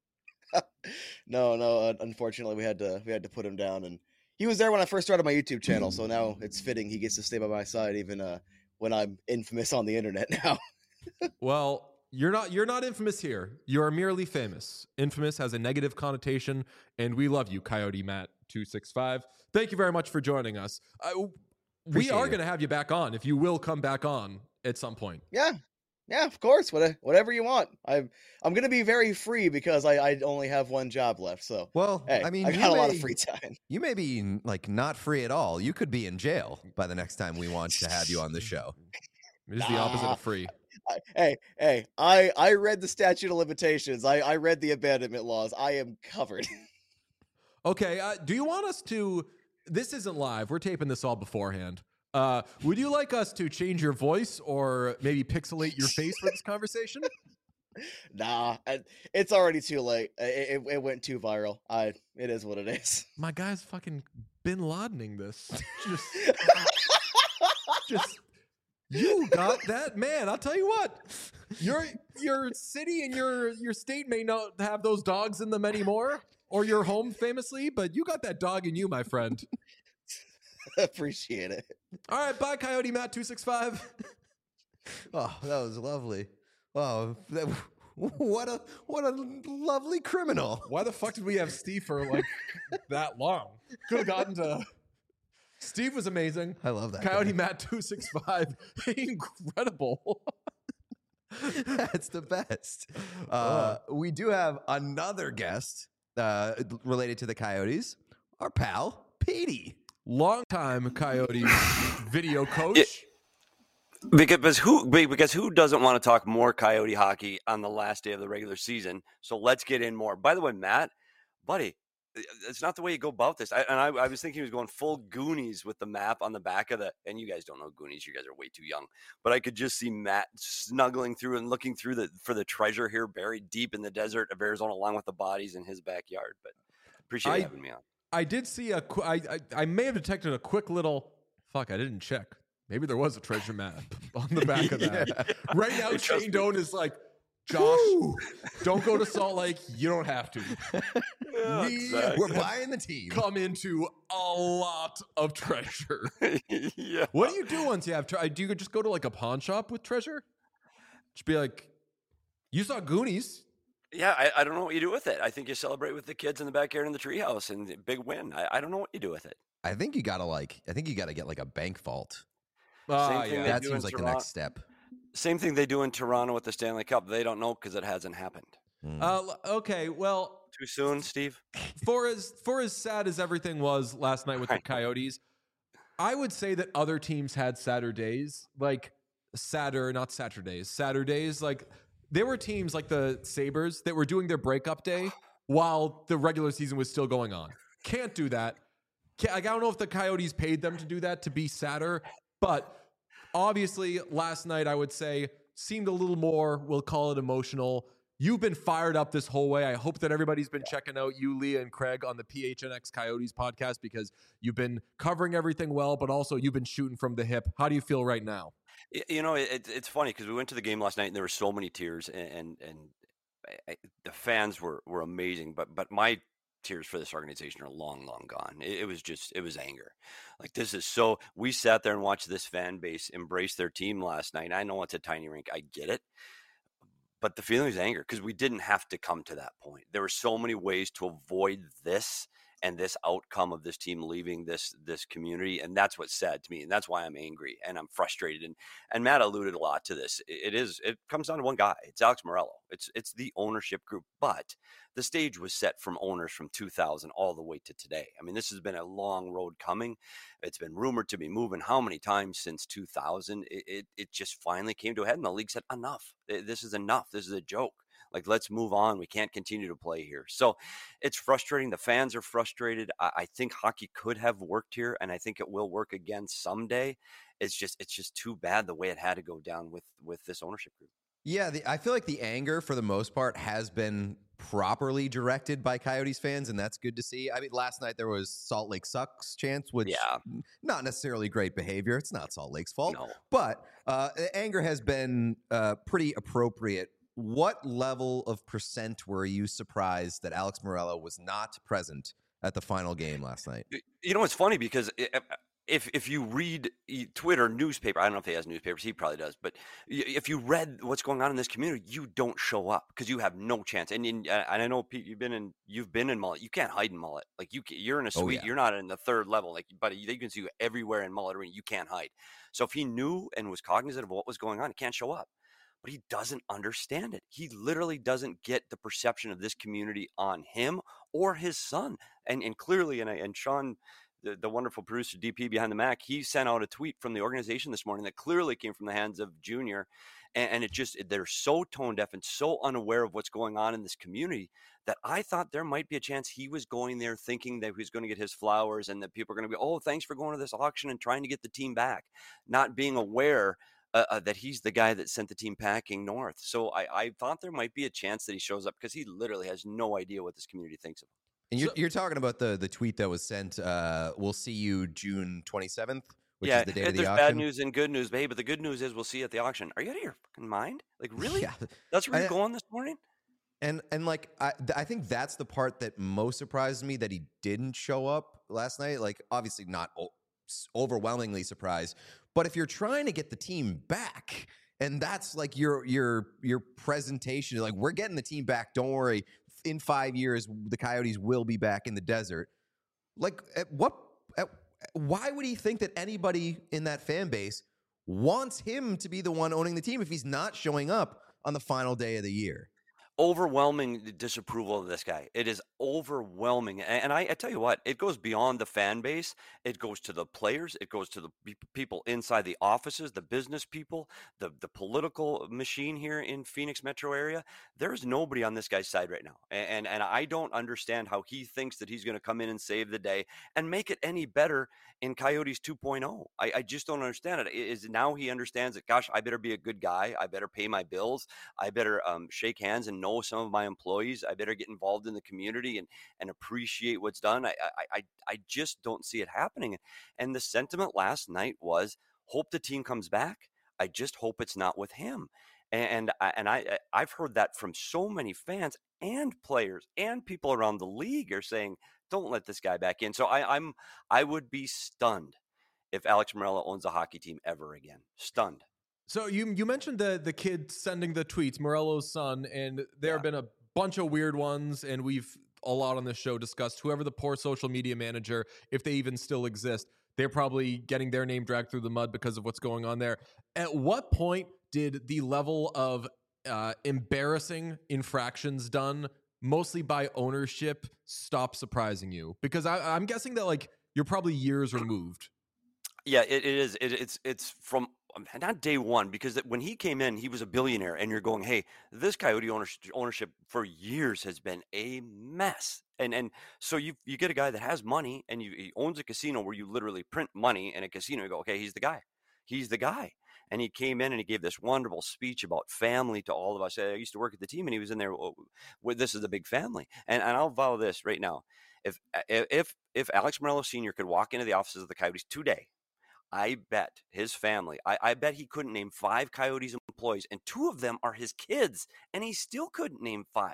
No. Unfortunately, we had to put him down, and he was there when I first started my YouTube channel. So now it's fitting he gets to stay by my side, even when I'm infamous on the internet now. Well, you're not infamous here. You are merely famous. Infamous has a negative connotation, and we love you, Coyote Matt 265. Thank you very much for joining us. We are going to have you back on if you will come back on at some point. Yeah, of course. Whatever you want. I'm going to be very free because I only have one job left. So, well, hey, I mean, I got a lot of free time. You may be like not free at all. You could be in jail by the next time we want to have you on the show. It is the opposite of free. I read the statute of limitations. I read the abandonment laws. I am covered. Okay. Do you want us to? This isn't live. We're taping this all beforehand. Would you like us to change your voice or maybe pixelate your face for this conversation? Nah, it's already too late. It went too viral. It is what it is. My guy's fucking Bin Ladening this. Just you got that, man. I'll tell you what. Your city and your state may not have those dogs in them anymore, or your home famously, but you got that dog in you, my friend. Appreciate it. All right, bye, Coyote Matt 265. Oh, that was lovely. Oh, what a lovely criminal. Why the fuck did we have Steve for like that long? Could have gotten to. Steve was amazing. I love that. Coyote guy. Matt 265, incredible. That's the best. We do have another guest related to the Coyotes. Our pal Petey. Longtime Coyotes video coach. Because who doesn't want to talk more Coyote hockey on the last day of the regular season? So let's get in more. By the way, Matt, buddy, it's not the way you go about this. I was thinking he was going full Goonies with the map on the back of the. And you guys don't know Goonies; you guys are way too young. But I could just see Matt snuggling through and looking through for the treasure here, buried deep in the desert of Arizona, along with the bodies in his backyard. But appreciate you having me on. I did see I may have detected a quick little. Fuck! I didn't check. Maybe there was a treasure map on the back of that. Yeah. Right now, Shane Doan is like, Josh, don't go to Salt Lake. You don't have to. We're buying the team. Come into a lot of treasure. Yeah. What do you do once you have treasure? Do you just go to like a pawn shop with treasure? Just be like, you saw Goonies. Yeah, I don't know what you do with it. I think you celebrate with the kids in the backyard in the treehouse and big win. I don't know what you do with it. I think you gotta get like a bank vault. Same thing they That do seems in like the Toronto. next step. Same thing they do in Toronto with the Stanley Cup. They don't know because it hasn't happened. Okay, well, Too soon, Steve? for as sad as everything was last night with the Coyotes, I would say that other teams had Saturdays, like not Saturdays, Saturdays. Like there were teams like the Sabres that were doing their breakup day while the regular season was still going on. Can't do that. I don't know if the Coyotes paid them to do that to be sadder, but obviously last night I would say seemed a little more, we'll call it emotional. You've been fired up this whole way. I hope that everybody's been checking out you, Leah, and Craig on the PHNX Coyotes podcast because you've been covering everything well, but also you've been shooting from the hip. How do you feel right now? You know, it's funny because we went to the game last night and there were so many tears and the fans were amazing. But my tears for this organization are long, long gone. It was anger. Like, this is so, we sat there and watched this fan base embrace their team last night. I know it's a tiny rink. I get it. But the feeling is anger because we didn't have to come to that point. There were so many ways to avoid this and this outcome of this team leaving this community, and that's what's sad to me, and that's why I'm angry and I'm frustrated. And Matt alluded a lot to this. It comes down to one guy. It's Alex Morello. It's the ownership group, but the stage was set from owners from 2000 all the way to today. I mean, this has been a long road coming. It's been rumored to be moving how many times since 2000? It just finally came to a head, and the league said, enough. This is enough. This is a joke. Like, let's move on. We can't continue to play here. So it's frustrating. The fans are frustrated. I think hockey could have worked here, and I think it will work again someday. It's just too bad the way it had to go down with this ownership group. Yeah, I feel like the anger, for the most part, has been properly directed by Coyotes fans, and that's good to see. I mean, last night there was Salt Lake sucks chants, which not necessarily great behavior. It's not Salt Lake's fault, but anger has been pretty appropriate. What level of percent were you surprised that Alex Morello was not present at the final game last night? You know, it's funny because if you read Twitter, newspaper, I don't know if he has newspapers, he probably does, but if you read what's going on in this community, you don't show up because you have no chance. And I know, Pete, you've been in Mullet. You can't hide in Mullet. Like, you're in a suite. You're not in the third level. Like, but you can see you everywhere in Mullet Arena. You can't hide. So if he knew and was cognizant of what was going on, he can't show up. But he doesn't understand it. He literally doesn't get the perception of this community on him or his son. And clearly, and Sean, the wonderful producer, DP behind the Mac, he sent out a tweet from the organization this morning that clearly came from the hands of Junior. And they're so tone deaf and so unaware of what's going on in this community that I thought there might be a chance he was going there thinking that he was going to get his flowers and that people are going to be, oh, thanks for going to this auction and trying to get the team back, not being aware that he's the guy that sent the team packing north. So I thought there might be a chance that he shows up because he literally has no idea what this community thinks of him. And you're talking about the tweet that was sent, we'll see you June 27th, which is the day of the there's auction. Bad news and good news, babe, but the good news is we'll see you at the auction. Are you out of your fucking mind? Like, really? Yeah. That's where you're going this morning? And like, I think that's the part that most surprised me, that he didn't show up last night. Like, obviously not overwhelmingly surprised, but if you're trying to get the team back, and that's like your presentation, like, we're getting the team back, don't worry, in 5 years the Coyotes will be back in the desert. Like, why would he think that anybody in that fan base wants him to be the one owning the team if he's not showing up on the final day of the year? Overwhelming disapproval of this guy. It is overwhelming. And I tell you what, it goes beyond the fan base. It goes to the players. It goes to the people inside the offices, the business people, the political machine here in Phoenix metro area. There's nobody on this guy's side right now. And I don't understand how he thinks that he's going to come in and save the day and make it any better in Coyotes 2.0. I just don't understand it. Is now he understands that, gosh, I better be a good guy. I better pay my bills. I better shake hands and know some of my employees. I better get involved in the community and appreciate what's done. I just don't see it happening. And the sentiment last night was, hope the team comes back. I just hope it's not with him. And I've heard that from so many fans and players and people around the league are saying, don't let this guy back in. So I would be stunned if Alex Morello owns a hockey team ever again. Stunned. So you mentioned the kid sending the tweets, Morello's son, and there have been a bunch of weird ones, and we've a lot on this show discussed whoever the poor social media manager, if they even still exist, they're probably getting their name dragged through the mud because of what's going on there. At what point did the level of embarrassing infractions done mostly by ownership stop surprising you? Because I'm guessing that, like, you're probably years removed. Yeah, it is. It's from not day one, because when he came in, he was a billionaire, and you're going, hey, this Coyote ownership for years has been a mess. And so you get a guy that has money, and he owns a casino where you literally print money in a casino. You go, okay, he's the guy. He's the guy. And he came in and he gave this wonderful speech about family to all of us. I used to work at the team, and he was in there with, this is a big family. And I'll vow this right now. If Alex Morello Sr. could walk into the offices of the Coyotes today, I bet his family, I bet he couldn't name 5 Coyotes employees, and 2 of them are his kids, and he still couldn't name 5.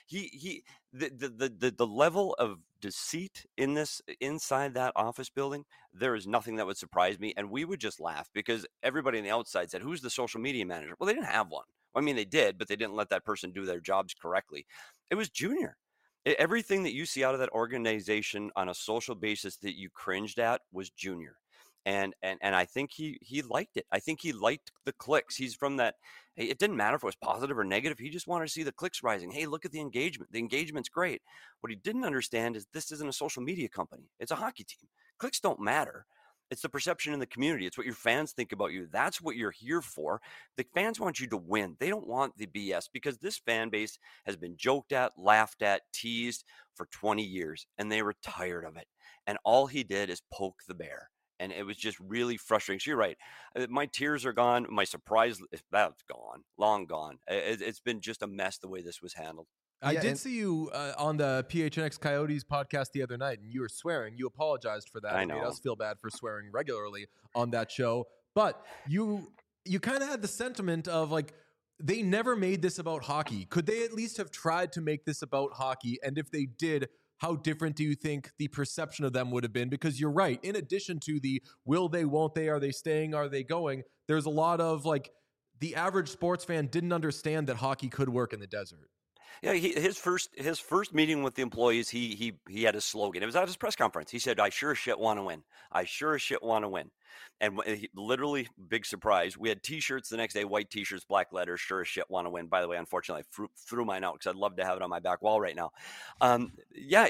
The level of deceit in this inside that office building, there is nothing that would surprise me, and we would just laugh because everybody on the outside said, "Who's the social media manager?" Well, they didn't have one. I mean, they did, but they didn't let that person do their jobs correctly. It was Junior. Everything that you see out of that organization on a social basis that you cringed at was Junior. And I think he liked it. I think he liked the clicks. He's from that. Hey, it didn't matter if it was positive or negative. He just wanted to see the clicks rising. Hey, look at the engagement. The engagement's great. What he didn't understand is this isn't a social media company. It's a hockey team. Clicks don't matter. It's the perception in the community. It's what your fans think about you. That's what you're here for. The fans want you to win. They don't want the BS because this fan base has been joked at, laughed at, teased for 20 years, and they were tired of it. And all he did is poke the bear. And it was just really frustrating. So you're right. My tears are gone. My surprise, that's gone, long gone. It's been just a mess the way this was handled. I did see you on the PHNX Coyotes podcast the other night, and you were swearing. You apologized for that. I It made know. us feel bad for swearing regularly on that show. But you kind of had the sentiment of like, they never made this about hockey. Could they at least have tried to make this about hockey? And if they did, how different do you think the perception of them would have been? Because you're right. In addition to the will they, won't they, are they staying, are they going? There's a lot of like the average sports fan didn't understand that hockey could work in the desert. Yeah, his first meeting with the employees, he had a slogan. It was at his press conference. He said, "I sure as shit want to win. I sure as shit want to win." And literally, big surprise. We had T-shirts the next day, white T-shirts, black letters, "Sure as shit want to win." By the way, unfortunately, I threw mine out because I'd love to have it on my back wall right now. Yeah,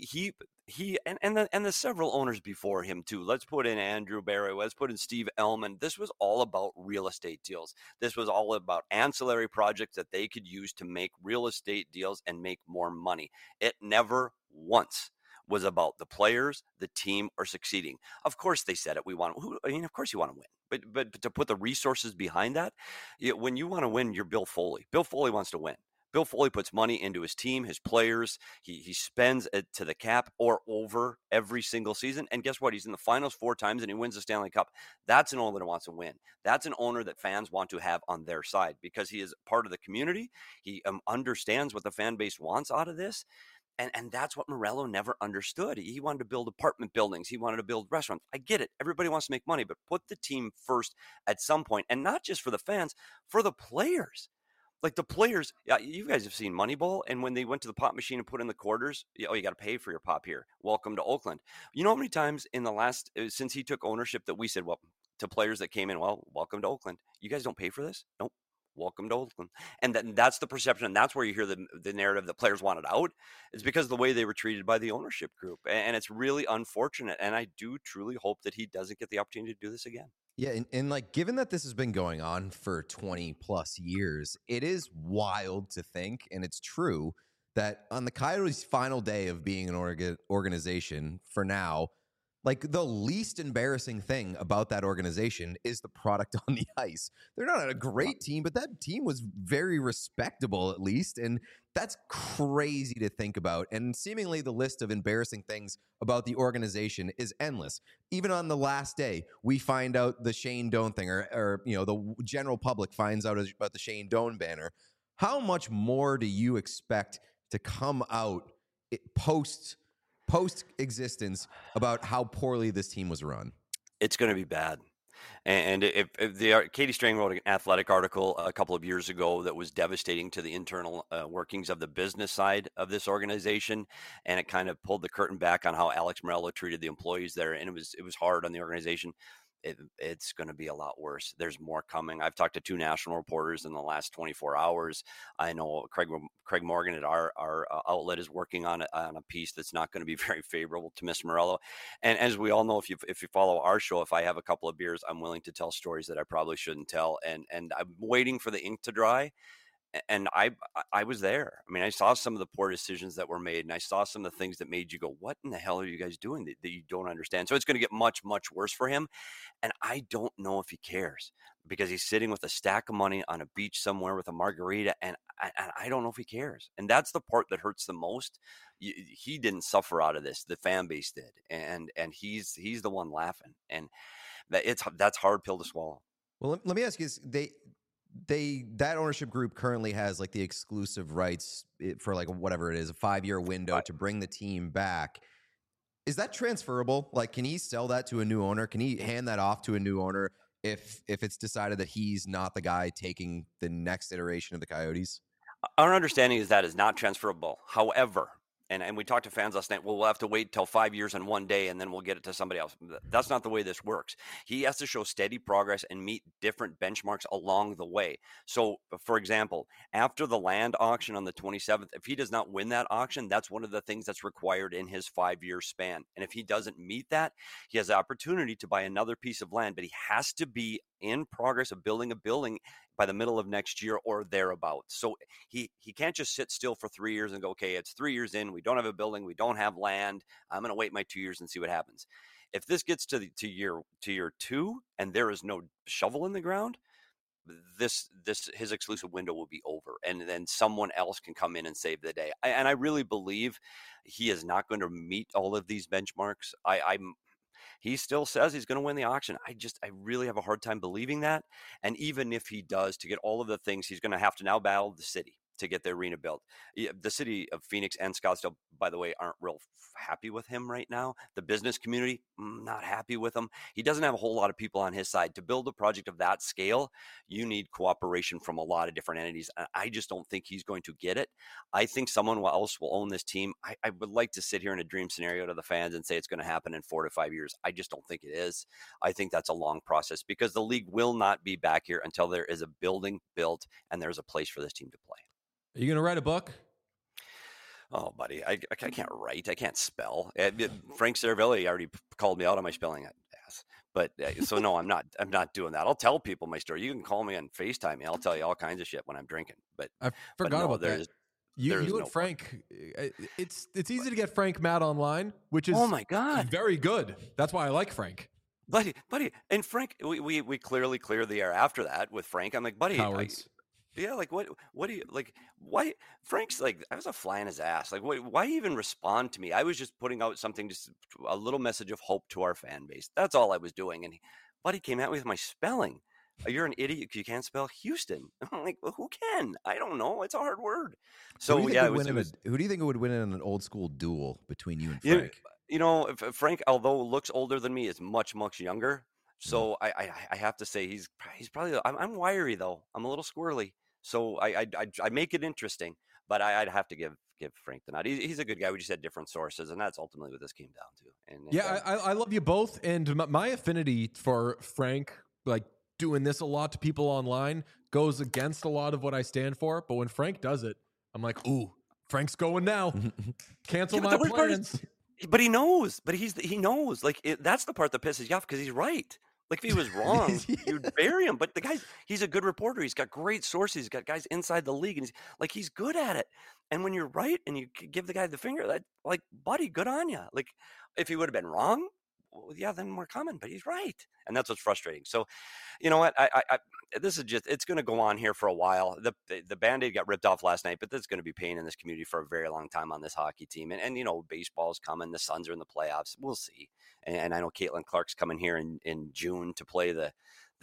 he and the several owners before him too. Let's put in Andrew Barry. Let's put in Steve Ellman. This was all about real estate deals. This was all about ancillary projects that they could use to make real estate deals and make more money. It never once was about the players, the team, or succeeding. Of course, they said it. Of course, you want to win, but to put the resources behind that, when you want to win, you're Bill Foley. Bill Foley wants to win. Bill Foley puts money into his team, his players. He spends it to the cap or over every single season. And guess what? He's in the finals 4 times and he wins the Stanley Cup. That's an owner that wants to win. That's an owner that fans want to have on their side because he is part of the community. He understands what the fan base wants out of this. And that's what Morello never understood. He wanted to build apartment buildings. He wanted to build restaurants. I get it. Everybody wants to make money, but put the team first at some point, and not just for the fans, for the players. Like the players, you guys have seen Moneyball, and when they went to the pop machine and put in the quarters, you got to pay for your pop here. Welcome to Oakland. You know how many times in the last, since he took ownership, that we said, well, to players that came in, well, welcome to Oakland. You guys don't pay for this? Nope. Welcome to Oakland. And that's the perception. And that's where you hear the narrative that players wanted out. It's because of the way they were treated by the ownership group. And it's really unfortunate. And I do truly hope that he doesn't get the opportunity to do this again. Yeah, and like given that this has been going on for 20 plus years, it is wild to think, and it's true, that on the Coyotes' final day of being an organization for now, like the least embarrassing thing about that organization is the product on the ice. They're not a great team, but that team was very respectable at least. And that's crazy to think about. And seemingly the list of embarrassing things about the organization is endless. Even on the last day, we find out the Shane Doan thing, or the general public finds out about the Shane Doan banner. How much more do you expect to come out post existence about how poorly this team was run? It's going to be bad. And if the Katie Strang wrote an Athletic article a couple of years ago that was devastating to the internal workings of the business side of this organization, and it kind of pulled the curtain back on how Alex Morello treated the employees there, and it was hard on the organization. It's going to be a lot worse. There's more coming. I've talked to 2 national reporters in the last 24 hours. I know Craig Morgan at our outlet is working on a piece that's not going to be very favorable to Miss Morello. And as we all know, if you follow our show, if I have a couple of beers, I'm willing to tell stories that I probably shouldn't tell. And I'm waiting for the ink to dry. And I was there. I mean, I saw some of the poor decisions that were made, and I saw some of the things that made you go, what in the hell are you guys doing that you don't understand? So it's going to get much, much worse for him. And I don't know if he cares, because he's sitting with a stack of money on a beach somewhere with a margarita, and I don't know if he cares. And that's the part that hurts the most. He didn't suffer out of this. The fan base did. And he's the one laughing. And that's a hard pill to swallow. Well, let me ask you this. that ownership group currently has like the exclusive rights for like whatever it is, a 5-year window to bring the team back. Is that transferable? Like, can he sell that to a new owner? Can he hand that off to a new owner if it's decided that he's not the guy taking the next iteration of the Coyotes? Our understanding is that is not transferable. However, and we talked to fans last night, well, we'll have to wait till 5 years and 1 day, and then we'll get it to somebody else. That's not the way this works. He has to show steady progress and meet different benchmarks along the way. So, for example, after the land auction on the 27th, if he does not win that auction, that's one of the things that's required in his 5-year span. And if he doesn't meet that, he has the opportunity to buy another piece of land, but he has to be in progress of building a building by the middle of next year or thereabouts. So he can't just sit still for 3 years and go, okay, it's 3 years in, we don't have a building, we don't have land, I'm going to wait my 2 years and see what happens. If this gets to year 2 and there is no shovel in the ground, his exclusive window will be over, and then someone else can come in and save the day. And I really believe he is not going to meet all of these benchmarks. He still says he's going to win the auction. I really have a hard time believing that. And even if he does, to get all of the things, he's going to have to now battle the city to get the arena built. The city of Phoenix and Scottsdale, by the way, aren't real happy with him right now. The business community, not happy with him. He doesn't have a whole lot of people on his side. To build a project of that scale, you need cooperation from a lot of different entities. And I just don't think he's going to get it. I think someone else will own this team. I would like to sit here in a dream scenario to the fans and say it's going to happen in 4 to 5 years. I just don't think it is. I think that's a long process because the league will not be back here until there is a building built and there's a place for this team to play. Are you going to write a book? Oh, buddy, I can't write. I can't spell. Frank Saravelli already called me out on my spelling ass. But so no, I'm not doing that. I'll tell people my story. You can call me on FaceTime. I'll tell you all kinds of shit when I'm drinking. But I forgot about that. You and Frank, it's easy to get Frank mad online, which is oh my god, very good. That's why I like Frank. Buddy, and Frank, we clearly cleared the air after that with Frank. I'm like, buddy, Cowards. yeah, like what do you like? Why Frank's like I was a fly in his ass. Like why even respond to me? I was just putting out something, just a little message of hope to our fan base. That's all I was doing. And buddy came at me with my spelling. You're an idiot. You can't spell Houston. I'm like, well, who can? I don't know. It's a hard word. So who do you think would win in an old school duel between you and Frank? You know, Frank, although looks older than me, is much younger. So I have to say he's probably. I'm wiry though. I'm a little squirrely. So I make it interesting, but I'd have to give Frank the nod. He's a good guy. We just had different sources, and that's ultimately what this came down to. And yeah, I love you both, and my affinity for Frank, like doing this a lot to people online, goes against a lot of what I stand for. But when Frank does it, I'm like, ooh, Frank's going now. Cancel my plans. But he knows. But he knows. Like that's the part that pisses you off because he's right. Like if he was wrong, you'd bury him. But the guy, he's a good reporter. He's got great sources. He's got guys inside the league, and he's good at it. And when you're right and you give the guy the finger, that like, buddy, good on you. Like if he would have been wrong, well, yeah, then we're coming. But he's right, and that's what's frustrating. So, you know what? This is just it's going to go on here for a while. The Band-Aid got ripped off last night, but there's going to be pain in this community for a very long time on this hockey team. And you know, baseball's coming. The Suns are in the playoffs. We'll see. And I know Caitlin Clark's coming here in June to play the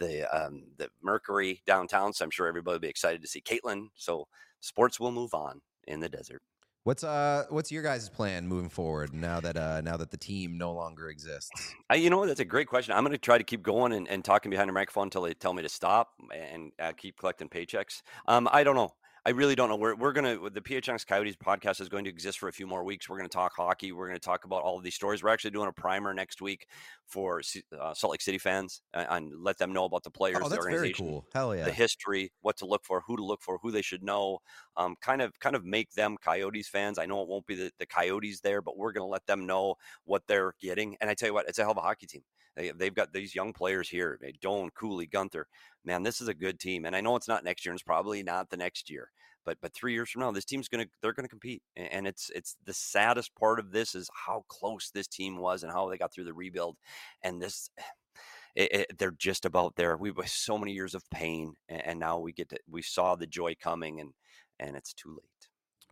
Mercury downtown. So I'm sure everybody will be excited to see Caitlin. So sports will move on in the desert. What's your guys' plan moving forward now that the team no longer exists? You know, that's a great question. I'm going to try to keep going and talking behind the microphone until they tell me to stop and keep collecting paychecks. I don't know. I really don't know. We're going to, the PHNX Coyotes podcast is going to exist for a few more weeks. We're going to talk hockey. We're going to talk about all of these stories. We're actually doing a primer next week for Salt Lake City fans and let them know about the players, the organization, very cool. Hell yeah. The history, what to look for, who they should know, kind of make them Coyotes fans. I know it won't be the Coyotes there, but we're going to let them know what they're getting. And I tell you what, it's a hell of a hockey team. They've got these young players here, Doan, Cooley, Gunther. Man, this is a good team. And I know it's not next year, and it's probably not the next year. But 3 years from now, this team's they're gonna compete. And it's the saddest part of this is how close this team was and how they got through the rebuild. And this, they're just about there. We've so many years of pain, and now we saw the joy coming, and it's too late.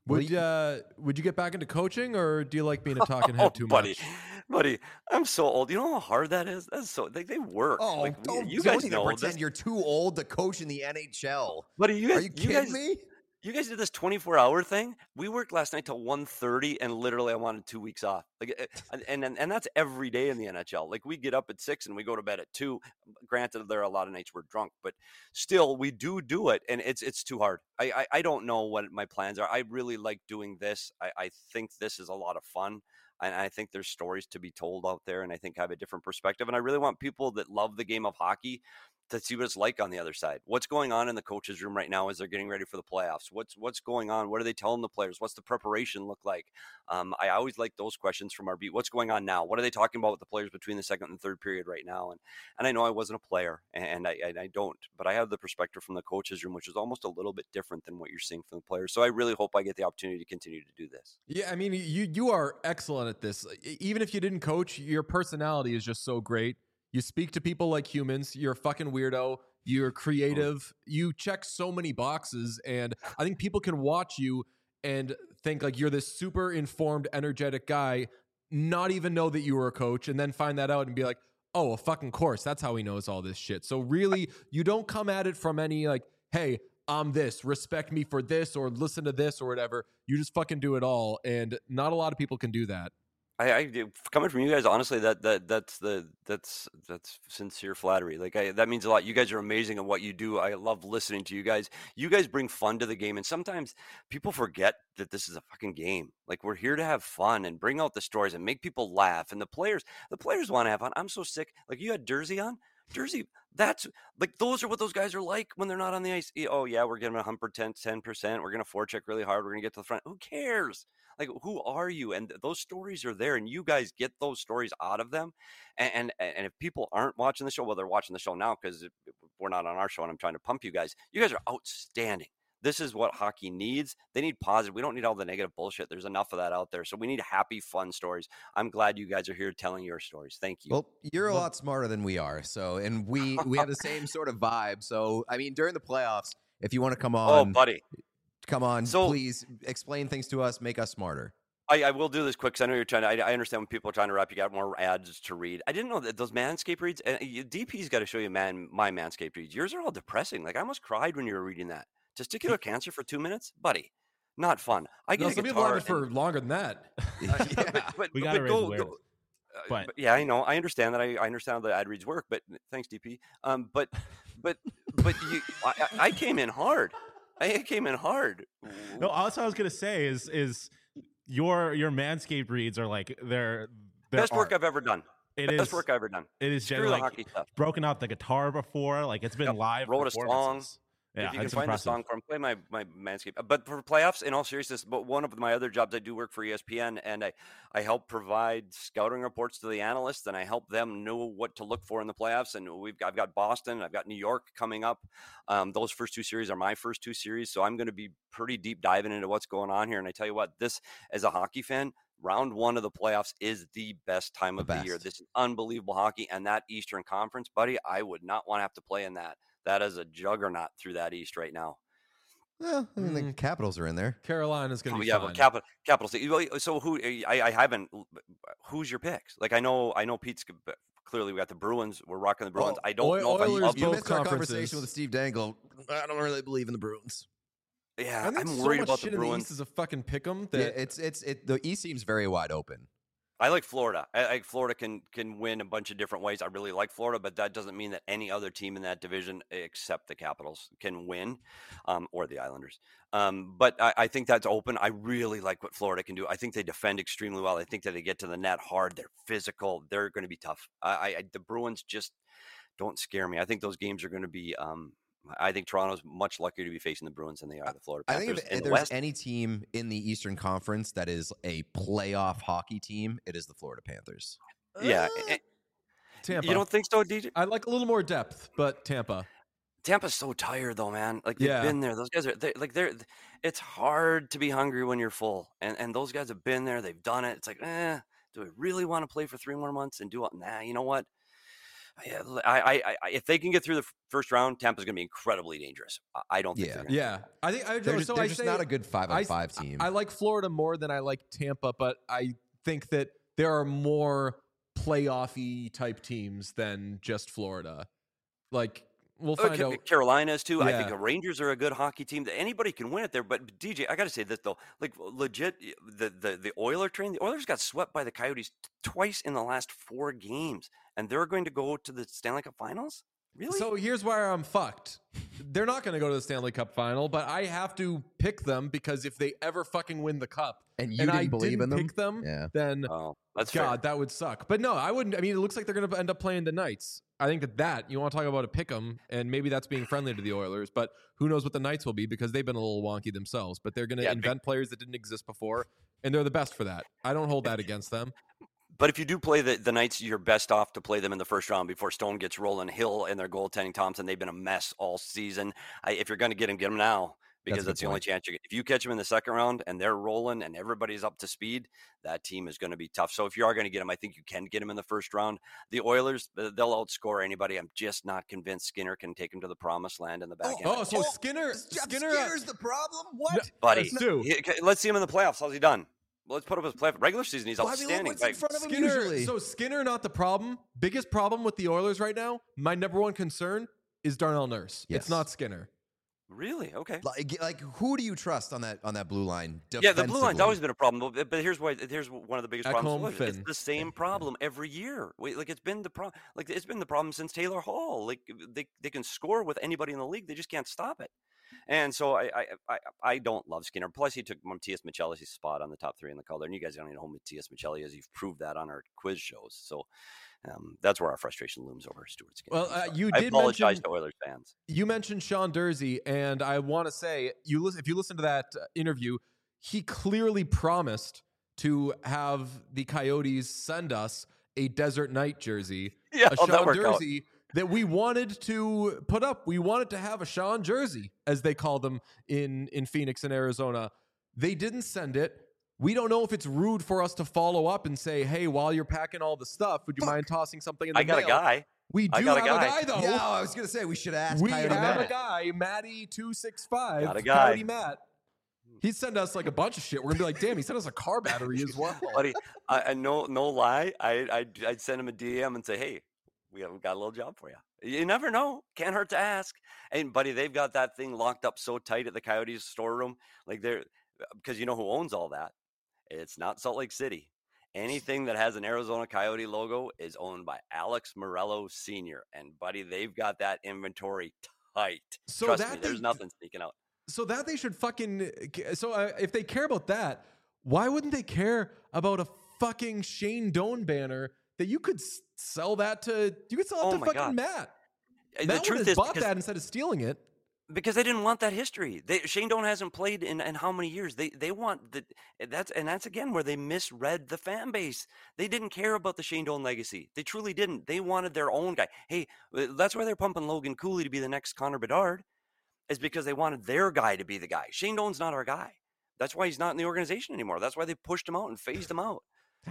Would you get back into coaching, or do you like being a talking head too much? Buddy, I'm so old. You know how hard that is? That's so they work. Oh, Like, don't you guys even know pretend this. you're too old to coach in the NHL. Buddy, you guys, Are you kidding me? You guys did this 24-hour thing. We worked last night till 1:30, and literally I wanted 2 weeks off. Like, and that's every day in the NHL. Like, we get up at 6 and we go to bed at 2. Granted, there are a lot of nights we're drunk, but still, we do it, and it's too hard. I don't know what my plans are. I really like doing this. I think this is a lot of fun. And I think there's stories to be told out there, and I think I have a different perspective. And I really want people that love the game of hockey to see what it's like on the other side. What's going on in the coaches' room right now as they're getting ready for the playoffs? What's going on? What are they telling the players? What's the preparation look like? I always like those questions from our beat. What's going on now? What are they talking about with the players between the second and third period right now? And I know I wasn't a player, and I don't, but I have the perspective from the coaches' room, which is almost a little bit different than what you're seeing from the players. So I really hope I get the opportunity to continue to do this. Yeah, I mean, you are excellent at this. Even if you didn't coach, your personality is just so great. You speak to people like humans. You're a fucking weirdo. You're creative. You check so many boxes, and I think people can watch you and think like you're this super informed, energetic guy, not even know that you were a coach, and then find that out and be like, oh, a fucking course. That's how he knows all this shit. So really, you don't come at it from any like, hey, I'm this, respect me for this, or listen to this, or whatever. You just fucking do it all, and not a lot of people can do that. I coming from you guys, honestly, that's sincere flattery. Like, that means a lot. You guys are amazing at what you do. I love listening to you guys. You guys bring fun to the game, and sometimes people forget that this is a fucking game. Like, we're here to have fun and bring out the stories and make people laugh. And the players want to have fun. I'm so sick. Like, you had Jersey on. Jersey, that's like, those are what those guys are like when they're not on the ice. Oh yeah, we're getting 10%. We're gonna forecheck really hard. We're gonna get to the front. Who cares? Like, who are you? And those stories are there, and you guys get those stories out of them. And if people aren't watching the show, well, they're watching the show now because we're not on our show, and I'm trying to pump you guys. You guys are outstanding. This is what hockey needs. They need positive. We don't need all the negative bullshit. There's enough of that out there. So we need happy, fun stories. I'm glad you guys are here telling your stories. Thank you. Well, you're a lot smarter than we are. So, and we have the same sort of vibe. So, I mean, during the playoffs, if you want to come on, buddy, come on, so, please explain things to us, make us smarter. I will do this quick because I know you're trying to. I understand when people are trying to wrap. You got more ads to read. I didn't know that those Manscaped reads. DP's got to show you, my Manscaped reads. Yours are all depressing. Like, I almost cried when you were reading that. Testicular cancer for 2 minutes, buddy. Not fun. I get some people have it for longer than that. But we got to raise awareness. But yeah, I know. I understand that. I understand how the ad reads work. But thanks, DP. But I came in hard. I came in hard. No, all I was gonna say is your Manscaped reads are like they're best work I've ever done. Best work I've ever done. It is generally like broken out the guitar before. Like, it's been live. Wrote a song. Yeah, if you can find the song for him, play my Manscaped. But for playoffs, in all seriousness, but one of my other jobs, I do work for ESPN, and I help provide scouting reports to the analysts, and I help them know what to look for in the playoffs. And I've got Boston, I've got New York coming up. Those first 2 series are my first 2 series, so I'm going to be pretty deep diving into what's going on here. And I tell you what, this, as a hockey fan, round 1 of the playoffs is the best time of the year. This is unbelievable hockey, and that Eastern Conference, buddy, I would not want to have to play in that. That is a juggernaut through that East right now. Well, I mean, the Capitals are in there. Carolina's going to be fine. Well, Capitals. So I haven't. Who's your picks? Like, I know Pete's. Clearly, we got the Bruins. We're rocking the Bruins. I don't know if I love you missed our conversation with Steve Dangle. I don't really believe in the Bruins. Yeah, I'm worried about the Bruins. The East is a fucking pick'em. The East seems very wide open. I like Florida. Florida can win a bunch of different ways. I really like Florida, but that doesn't mean that any other team in that division, except the Capitals, can win, or the Islanders. But I think that's open. I really like what Florida can do. I think they defend extremely well. I think that they get to the net hard. They're physical. They're going to be tough. The Bruins just don't scare me. I think those games are going to be. I think Toronto's much luckier to be facing the Bruins than they are the Florida Panthers. I think if there's any team in the Eastern Conference that is a playoff hockey team, it is the Florida Panthers. Yeah. Tampa. You don't think so, DJ? I like a little more depth, but Tampa's so tired though, man. Like, they've been there. Those guys are it's hard to be hungry when you're full. And those guys have been there. They've done it. It's like, do I really want to play for 3 more months and do it? Nah, you know what? If they can get through the first round, Tampa's going to be incredibly dangerous. I don't think Yeah. they're going to. Yeah, I think They're just not a good 5-on-5 team. I like Florida more than I like Tampa, but I think that there are more playoffy type teams than just Florida. Like we'll find out. Carolina's too. I think Yeah. the Rangers are a good hockey team. That anybody can win it there. But DJ, I got to say this though, like legit, the Oiler train. The Oilers got swept by the Coyotes twice in the last 4 games, and they're going to go to the Stanley Cup Finals. Really? So here's where I'm fucked. They're not going to go to the Stanley Cup final, but I have to pick them because if they ever fucking win the cup And you and didn't I believe in them? pick them, Yeah. then Oh, that's God, that would suck. But no, I wouldn't. I mean, it looks like they're going to end up playing the Knights. I think that you want to talk about a pick 'em, and maybe that's being friendly to the Oilers, but who knows what the Knights will be because they've been a little wonky themselves. But they're going to invent players that didn't exist before, and they're the best for that. I don't hold that against them. But if you do play the Knights, you're best off to play them in the first round before Stone gets rolling. Hill and their goaltending, Thompson, they've been a mess all season. If you're going to get them now because That's a that's good the only point. chance you get. If you catch them in the second round and they're rolling and everybody's up to speed, that team is going to be tough. So if you are going to get them, I think you can get them in the first round. The Oilers, they'll outscore anybody. I'm just not convinced Skinner can take them to the promised land in the back end. Oh, so Skinner's the problem? What? Buddy, Stu. let's see him in the playoffs. How's he done? Let's put up his play. Regular season, he's Well, I mean, outstanding. look what's in front of him Skinner, usually. so Skinner, not the problem. Biggest problem with the Oilers right now, my number one concern is Darnell Nurse. Yes. It's not Skinner. Really? Okay. Like who do you trust on that blue line? Yeah, the blue line's defensively? always been a problem. But here's one of the biggest problems. Ekholm, with the Oilers. Finn. It's the same problem every year. It's been the problem. Like it's been the problem since Taylor Hall. Like they can score with anybody in the league. They just can't stop it. And so I don't love Skinner. Plus, he took Matias Michelli's spot on the top 3 in the color. And you guys don't even know who Matias Michelli is. You've proved that on our quiz shows. So that's where our frustration looms over Stuart Skinner. Well, you I did apologize mention to Oilers fans. you mentioned Sean Dursey, and I want to say if you listen to that interview, he clearly promised to have the Coyotes send us a Desert Night jersey, Yeah, a how'd that Sean work out? Dursey that we wanted to put up. We wanted to have a Sean jersey, as they call them in Phoenix and Arizona. They didn't send it. We don't know if it's rude for us to follow up and say, hey, while you're packing all the stuff, would you mind tossing something in the I got mail? a guy. We I do got have a a guy. guy, though. Yeah, I was gonna say we should ask. We Coyote have Matt. a guy, Matty265. Got a guy. Coyote Matt. He sent us like a bunch of shit. We're gonna be like, damn, he sent us a car battery as well. Buddy, I no lie. I'd send him a DM and say, hey, we got a little job for you. You never know. Can't hurt to ask. And buddy, they've got that thing locked up so tight at the Coyotes storeroom. Like because you know who owns all that? It's not Salt Lake City. Anything that has an Arizona Coyote logo is owned by Alex Morello Sr. And buddy, they've got that inventory tight. So Trust that me, there's they- nothing sneaking out. So that they should fucking. So if they care about that, why wouldn't they care about a fucking Shane Doan banner that you could sell that to? You could sell it Oh to my fucking God. Matt. The Matt would truth have is, bought because- that instead of stealing it. Because they didn't want that history. Shane Doan hasn't played in how many years? They want that's again where they misread the fan base. They didn't care about the Shane Doan legacy. They truly didn't. They wanted their own guy. Hey, that's why they're pumping Logan Cooley to be the next Connor Bedard, is because they wanted their guy to be the guy. Shane Doan's not our guy. That's why he's not in the organization anymore. That's why they pushed him out and phased him out.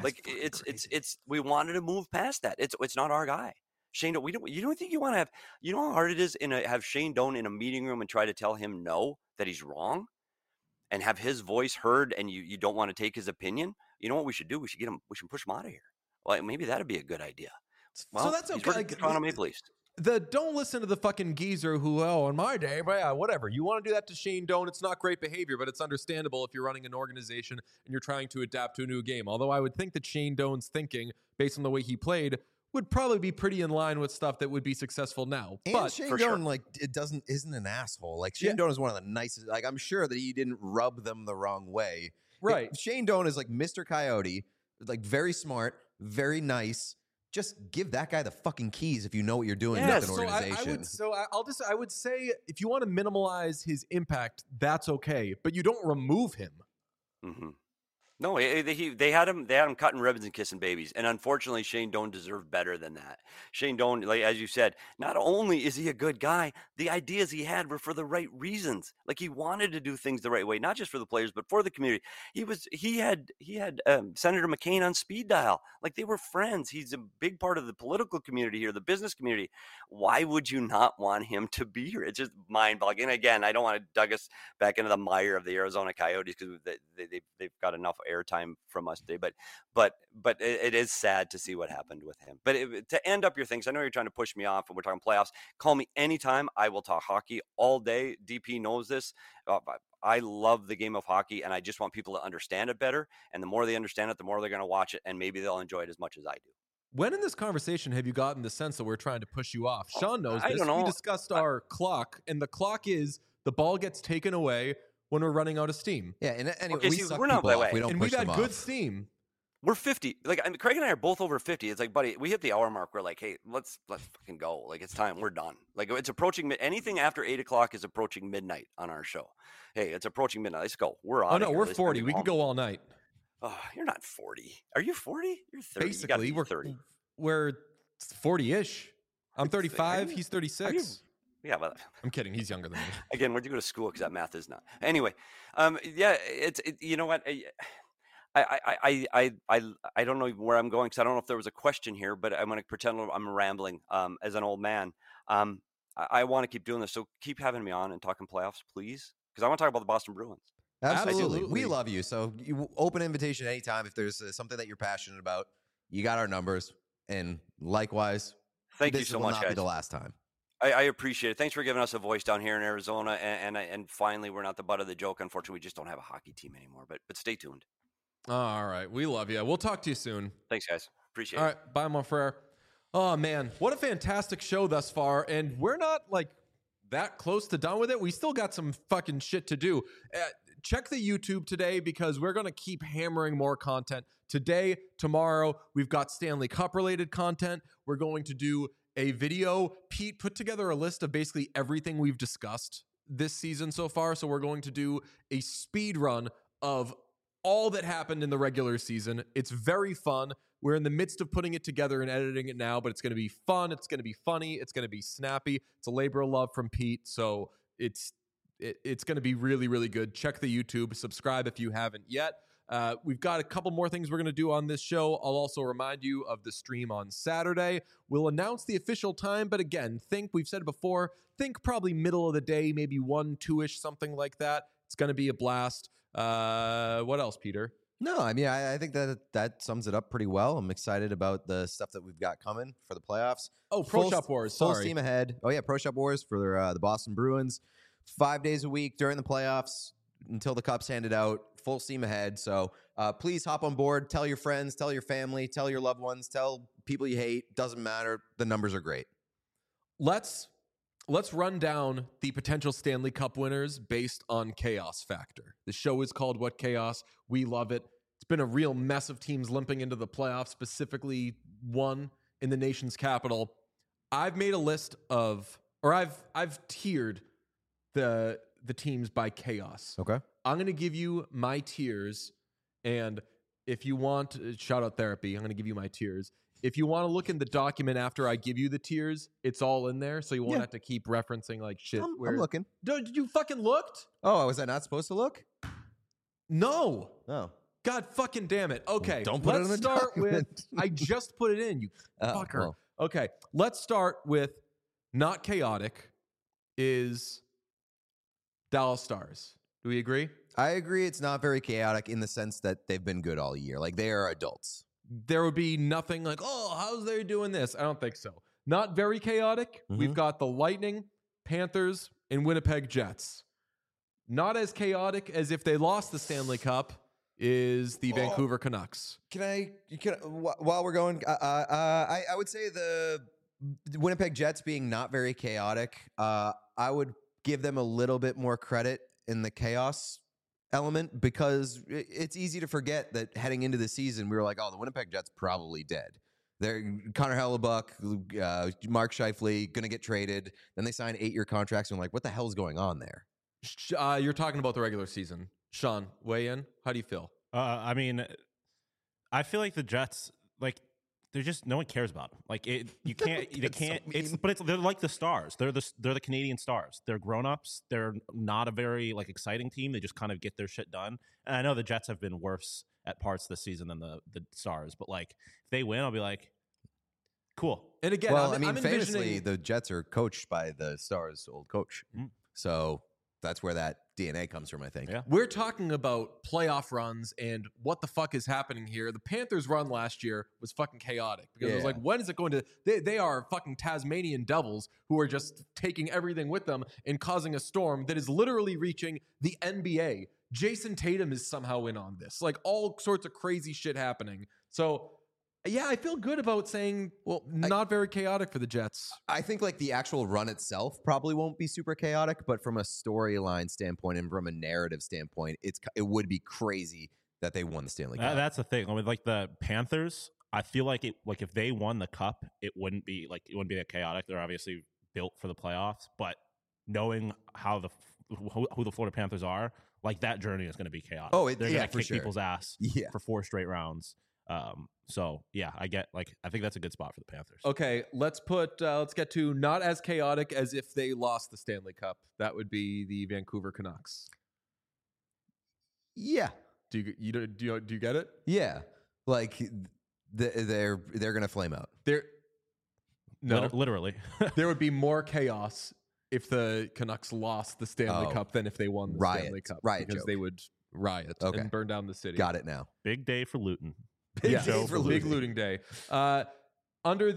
It's we wanted to move past that. It's not our guy. Shane, you don't think you want to have, you know how hard it is have Shane Doan in a meeting room and try to tell him no, that he's wrong, and have his voice heard, and you don't want to take his opinion? You know what we should do? We should push him out of here. Well, maybe that'd be a good idea. Well, so that's he's okay. working for Toronto Maple Leafs. Don't listen to the fucking geezer who, in my day, but yeah, whatever. You want to do that to Shane Doan, it's not great behavior, but it's understandable if you're running an organization and you're trying to adapt to a new game. Although I would think that Shane Doan's thinking, based on the way he played, would probably be pretty in line with stuff that would be successful now. And But Shane for Doan, sure. isn't an asshole. Like Shane Yeah. Doan is one of the nicest. Like I'm sure that he didn't rub them the wrong way. Right. Shane Doan is like Mr. Coyote, like very smart, very nice. Just give that guy the fucking keys if you know what you're doing Yes, with an organization. I would say if you want to minimize his impact, that's okay, but you don't remove him. Mm-hmm. No, they had him cutting ribbons and kissing babies, and unfortunately, Shane Doan deserved better than that. Shane Doan, like as you said, not only is he a good guy, the ideas he had were for the right reasons. Like he wanted to do things the right way, not just for the players, but for the community. He had Senator McCain on speed dial. Like they were friends. He's a big part of the political community here, the business community. Why would you not want him to be here? It's just mind-boggling. And again, I don't want to dug us back into the mire of the Arizona Coyotes because they've got enough airtime from us today, but it is sad to see what happened with him. But to end up your things, I know you're trying to push me off and we're talking playoffs. Call me anytime. I will talk hockey all day. DP knows this. I love the game of hockey, and I just want people to understand it better. And the more they understand it, the more they're going to watch it, and maybe they'll enjoy it as much as I do. When in this conversation have you gotten the sense that we're trying to push you off? Sean knows I this. don't know. We discussed our clock, and the clock is the ball gets taken away when we're running out of steam. Yeah, and anyway, Okay, we see, suck we're not people that off. way. We don't And push we've had them good off. steam. We're 50. Like Craig and I are both over 50. It's like, buddy, we hit the hour mark. We're like, hey, let's fucking go. Like it's time. We're done. Like it's approaching anything after 8 o'clock is approaching midnight on our show. Hey, it's approaching midnight. Let's go. We're out. Oh no, here. we're Let's 40. go We can home. go all night. Oh, you're not 40. Are you 40? You're 30. Basically, you gotta be 30. we're 40-ish. I'm 35. you- He's 36. Yeah, but I'm kidding. He's younger than me. again, where'd you go to school? Because that math is not. Anyway, yeah, you know what? I don't know where I'm going because I don't know if there was a question here, but I'm going to pretend I'm rambling as an old man. I want to keep doing this, so keep having me on and talking playoffs, please, because I want to talk about the Boston Bruins. Absolutely. Absolutely. We love you. So you open invitation anytime. If there's something that you're passionate about, you got our numbers. And likewise, Thank you this so will much, not be guys. the last time. I appreciate it. Thanks for giving us a voice down here in Arizona, and finally, we're not the butt of the joke. Unfortunately, we just don't have a hockey team anymore. But stay tuned. All right. We love you. We'll talk to you soon. Thanks, guys. Appreciate All it. right. Bye, mon frere. Oh, man. What a fantastic show thus far. And we're not like that close to done with it. We still got some fucking shit to do. Check the YouTube today because we're going to keep hammering more content. Today, tomorrow, we've got Stanley Cup related content. We're going to do a video. Pete put together a list of basically everything we've discussed this season so far. So we're going to do a speed run of all that happened in the regular season. It's very fun. We're in the midst of putting it together and editing it now, but it's going to be fun. It's going to be funny. It's going to be snappy. It's a labor of love from Pete. So it's going to be really, really good. Check the YouTube. Subscribe if you haven't yet. We've got a couple more things we're going to do on this show. I'll also remind you of the stream on Saturday. We'll announce the official time, but again, we've said it before, think probably middle of the day, maybe 1, 2-ish, something like that. It's going to be a blast. What else, Peter? No, I mean, I think that sums it up pretty well. I'm excited about the stuff that we've got coming for the playoffs. Oh, Pro Shop Wars. Full Sorry. steam ahead. Oh, yeah, Pro Shop Wars for the Boston Bruins. 5 days a week during the playoffs until the cup's handed out. Full steam ahead. So please hop on board. Tell your friends, tell your family, tell your loved ones, tell people you hate. Doesn't matter. The numbers are great. Let's run down the potential Stanley Cup winners based on Chaos Factor. The show is called What Chaos? We love it. It's been a real mess of teams limping into the playoffs, specifically one in the nation's capital. I've made a list of, or I've tiered the teams by chaos. Okay. I'm going to give you my tiers, and if you want, shout out therapy, I'm going to give you my tiers. If you want to look in the document after I give you the tiers, it's all in there, so you won't have to keep referencing like shit. I'm looking. Did you fucking looked? Oh, was I not supposed to look? No. Oh. God fucking damn it. Okay. Don't put it in the start document. with, I just put it in, you fucker. Well. Okay. Let's start with not chaotic is Dallas Stars. Do we agree? I agree. It's not very chaotic in the sense that they've been good all year. Like, they are adults. There would be nothing like, oh, how's they doing this? I don't think so. Not very chaotic. Mhm. We've got the Lightning, Panthers, and Winnipeg Jets. Not as chaotic as if they lost the Stanley Cup is the Vancouver Canucks. While we're going, I would say the Winnipeg Jets being not very chaotic, I would give them a little bit more credit in the chaos element because it's easy to forget that heading into the season, we were like, oh, the Winnipeg Jets probably dead. They're Connor Hellebuck, Mark Scheifele, going to get traded. Then they sign 8-year contracts. And we're like, what the hell is going on there? You're talking about the regular season. Sean, weigh in. How do you feel? I mean, I feel like the Jets, like, they're just no one cares about them. Like you can't, they can't. They're like the Stars. They're the Canadian Stars. They're grown-ups. They're not a very like exciting team. They just kind of get their shit done. And I know the Jets have been worse at parts this season than the Stars, but like if they win, I'll be like, cool. And again, Well, I'm famously, envisioning the Jets are coached by the Stars' old coach. So that's where that DNA comes from, I think. Yeah. we're talking about playoff runs and what the fuck is happening here. The Panthers' run last year was fucking chaotic because it was Yeah. like, when is it going to? They are fucking Tasmanian devils who are just taking everything with them and causing a storm that is literally reaching the NBA. Jason Tatum is somehow in on this. Like all sorts of crazy shit happening. So yeah, I feel good about saying, well, not very chaotic for the Jets. I think like the actual run itself probably won't be super chaotic, but from a storyline standpoint and from a narrative standpoint, it would be crazy that they won the Stanley Cup. That's the thing. With like the Panthers, I feel like if they won the cup, it wouldn't be that chaotic. They're obviously built for the playoffs, but knowing how who the Florida Panthers are, like that journey is going to be chaotic. Oh, they're yeah, going to for kick sure. people's ass for 4 straight rounds. So yeah, I think that's a good spot for the Panthers. Okay, let's get to not as chaotic as if they lost the Stanley Cup. That would be the Vancouver Canucks. Yeah. Do you get it? Yeah. Like they're going to flame out. No, Literally. there would be more chaos if the Canucks lost the Stanley Cup than if they won the Stanley Cup. Riot because joke. they would riot and burn down the city. Got it now. Big day for Luton. Big looting. looting day. Under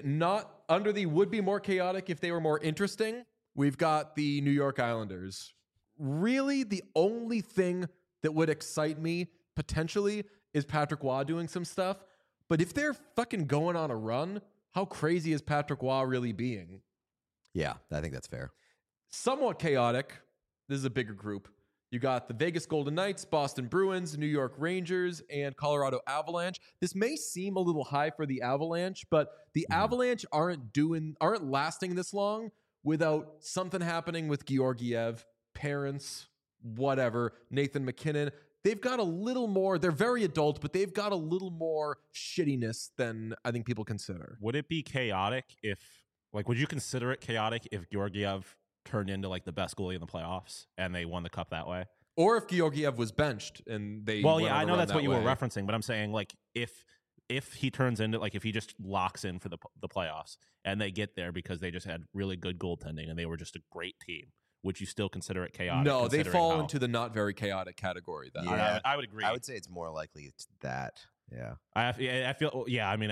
the would be more chaotic if they were more interesting, we've got the New York Islanders. Really, the only thing that would excite me potentially is Patrick Waugh doing some stuff. But if they're fucking going on a run, how crazy is Patrick Waugh really being? Yeah, I think that's fair. Somewhat chaotic. This is a bigger group. You got the Vegas Golden Knights, Boston Bruins, New York Rangers, and Colorado Avalanche. This may seem a little high for the Avalanche, but the Avalanche aren't lasting this long without something happening with Georgiev, parents, whatever, Nathan McKinnon. They've got a little more, they're very adult, but they've got a little more shittiness than I think people consider. Would it be chaotic would you consider it chaotic if Georgiev turned into like the best goalie in the playoffs and they won the cup that way? Or if Georgiev was benched and they Well, went yeah, on I a know run that's that what you were way. referencing, but I'm saying like if he turns into like if he just locks in for the playoffs and they get there because they just had really good goaltending and they were just a great team, would you still consider it chaotic? No, they fall considering into the not very chaotic category then. Yeah. I would agree. I would say it's more likely it's that. Yeah. I feel yeah. I mean,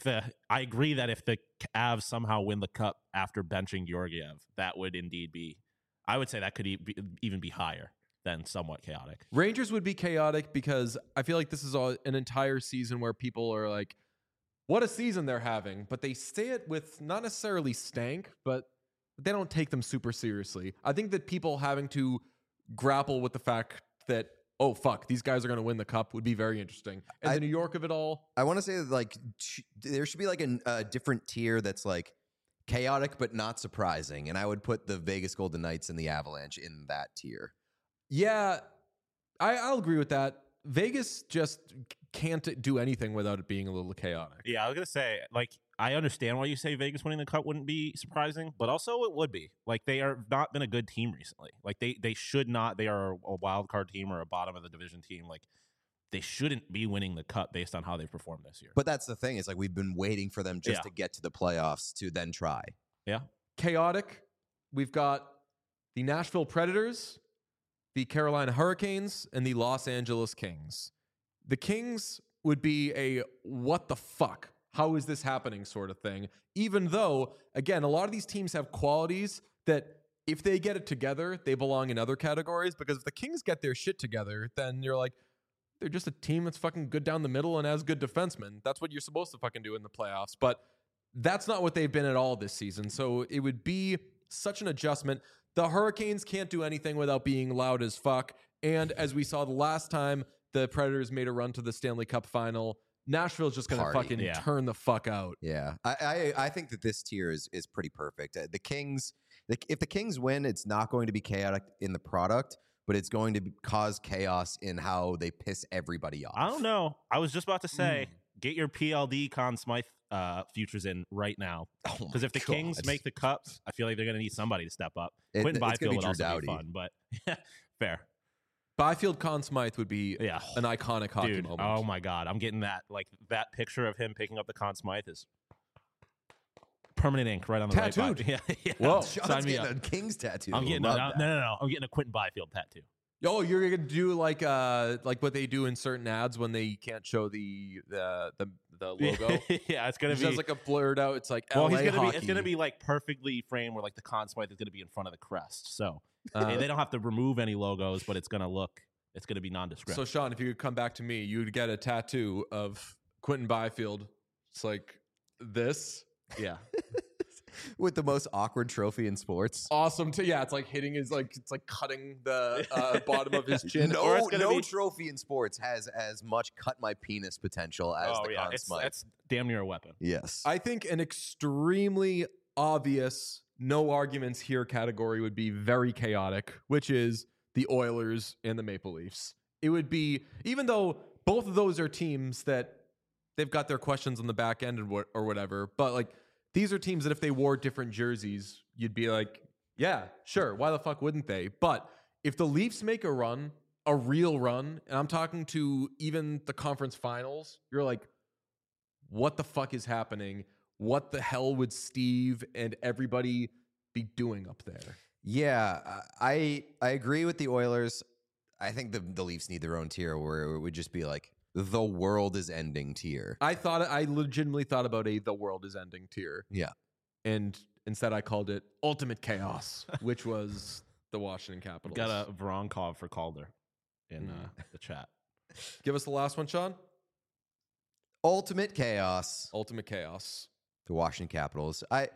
I agree that if the Avs somehow win the cup after benching Georgiev, that would indeed be. I would say that could even be higher than somewhat chaotic. Rangers would be chaotic because I feel like this is an entire season where people are like, what a season they're having. But they say it with not necessarily stank, but they don't take them super seriously. I think that people having to grapple with the fact that, oh, fuck, these guys are going to win the cup would be very interesting. And the New York of it all. I want to say that like there should be like a different tier that's like chaotic but not surprising. And I would put the Vegas Golden Knights and the Avalanche in that tier. Yeah, I'll agree with that. Vegas just can't do anything without it being a little chaotic. Yeah, I was gonna say, like, I understand why you say Vegas winning the cup wouldn't be surprising, but also it would be. Like, they are not been a good team recently. Like, they should not. They are a wild card team or a bottom of the division team. Like, they shouldn't be winning the cup based on how they've performed this year. But that's the thing. It's like we've been waiting for them just to get to the playoffs to then try. Yeah. Chaotic. We've got the Nashville Predators, the Carolina Hurricanes, and the Los Angeles Kings. The Kings would be a what the fuck? How is this happening sort of thing? Even though, again, a lot of these teams have qualities that if they get it together, they belong in other categories. Because if the Kings get their shit together, then you're like, they're just a team that's fucking good down the middle and has good defensemen. That's what you're supposed to fucking do in the playoffs. But that's not what they've been at all this season. So it would be such an adjustment. The Hurricanes can't do anything without being loud as fuck. And as we saw the last time the Predators made a run to the Stanley Cup final, Nashville's just going to fucking turn the fuck out. Yeah. I think that this tier is pretty perfect. The Kings, if the Kings win, it's not going to be chaotic in the product, but it's going to cause chaos in how they piss everybody off. I don't know. I was just about to say, get your PLD Conn Smythe futures in right now. Oh my Because if the Kings God. make the cups, I feel like they're going to need somebody to step up. It's Quentin gonna Byfield be would Drew also Doughty. be fun, but fair. Byfield Conn Smythe would be Yeah. an iconic hockey Dude, moment. oh my God. I'm getting that. Like, that picture of him picking up the Conn Smythe is permanent ink right on the right Tattooed. body. Yeah. Whoa. Sean's Sign me getting up. a King's tattoo. I'm getting Love no, that. no. I'm getting a Quentin Byfield tattoo. Oh, you're gonna do like what they do in certain ads when they can't show the logo. Yeah, it's gonna It be. has like a blurred out. It's like well, LA he's gonna hockey. be. It's gonna be like perfectly framed, where like the Conn Smythe is gonna be in front of the crest. So Uh, they don't have to remove any logos, but it's gonna look. It's gonna be nondescript. So Sean, if you could come back to me, you'd get a tattoo of Quentin Byfield. It's like this. yeah, With the most awkward trophy in sports. Awesome. Yeah, it's like hitting his it's like cutting the bottom of his chin. Or it's No, gonna no be- trophy in sports has as much cut my penis potential as the Conn Smythe. That's damn near a weapon. Yes. I think an extremely obvious, no arguments here category would be very chaotic, which is the Oilers and the Maple Leafs. It would be, even though both of those are teams that they've got their questions on the back end or whatever, but like these are teams that if they wore different jerseys, you'd be like, yeah, sure, why the fuck wouldn't they? But if the Leafs make a run, a real run, and I'm talking to even the conference finals, you're like, what the fuck is happening? What the hell would Steve and everybody be doing up there? Yeah, I agree with the Oilers. I think the Leafs need their own tier where it would just be like the world is ending tier. I legitimately thought about the world is ending tier. Yeah. And instead I called it ultimate chaos, which was the Washington Capitals. Got a Voronkov for Calder in the chat. Give us the last one, Sean. Ultimate chaos. Ultimate chaos. The Washington Capitals. I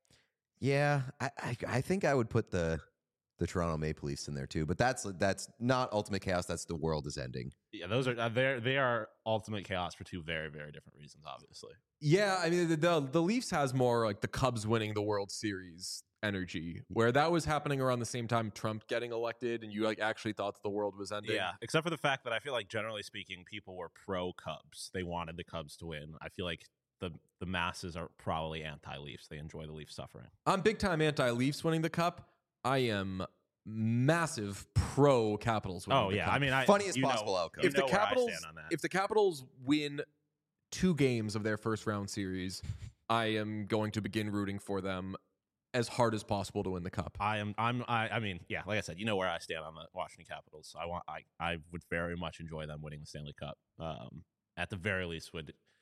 think I would put the Toronto Maple Leafs in there too, but that's not ultimate chaos. That's the world is ending. Yeah, those are they are ultimate chaos for two very, very different reasons, obviously. Yeah, I mean the Leafs has more like the Cubs winning the World Series energy, where that was happening around the same time Trump getting elected, and you like actually thought that the world was ending. Yeah, except for the fact that I feel like generally speaking, people were pro Cubs. They wanted the Cubs to win. I feel like the masses are probably anti-Leafs. They enjoy the Leafs suffering. I'm big time anti-Leafs winning the cup. I am massive pro Capitals winning Oh the yeah, cup. I mean, Funniest possible outcome. if the know where I Capitals stand on that. if the Capitals win 2 games of their first round series, I am going to begin rooting for them as hard as possible to win the cup. I mean, yeah, like I said, you know where I stand on the Washington Capitals. I would very much enjoy them winning the Stanley Cup. At the very least,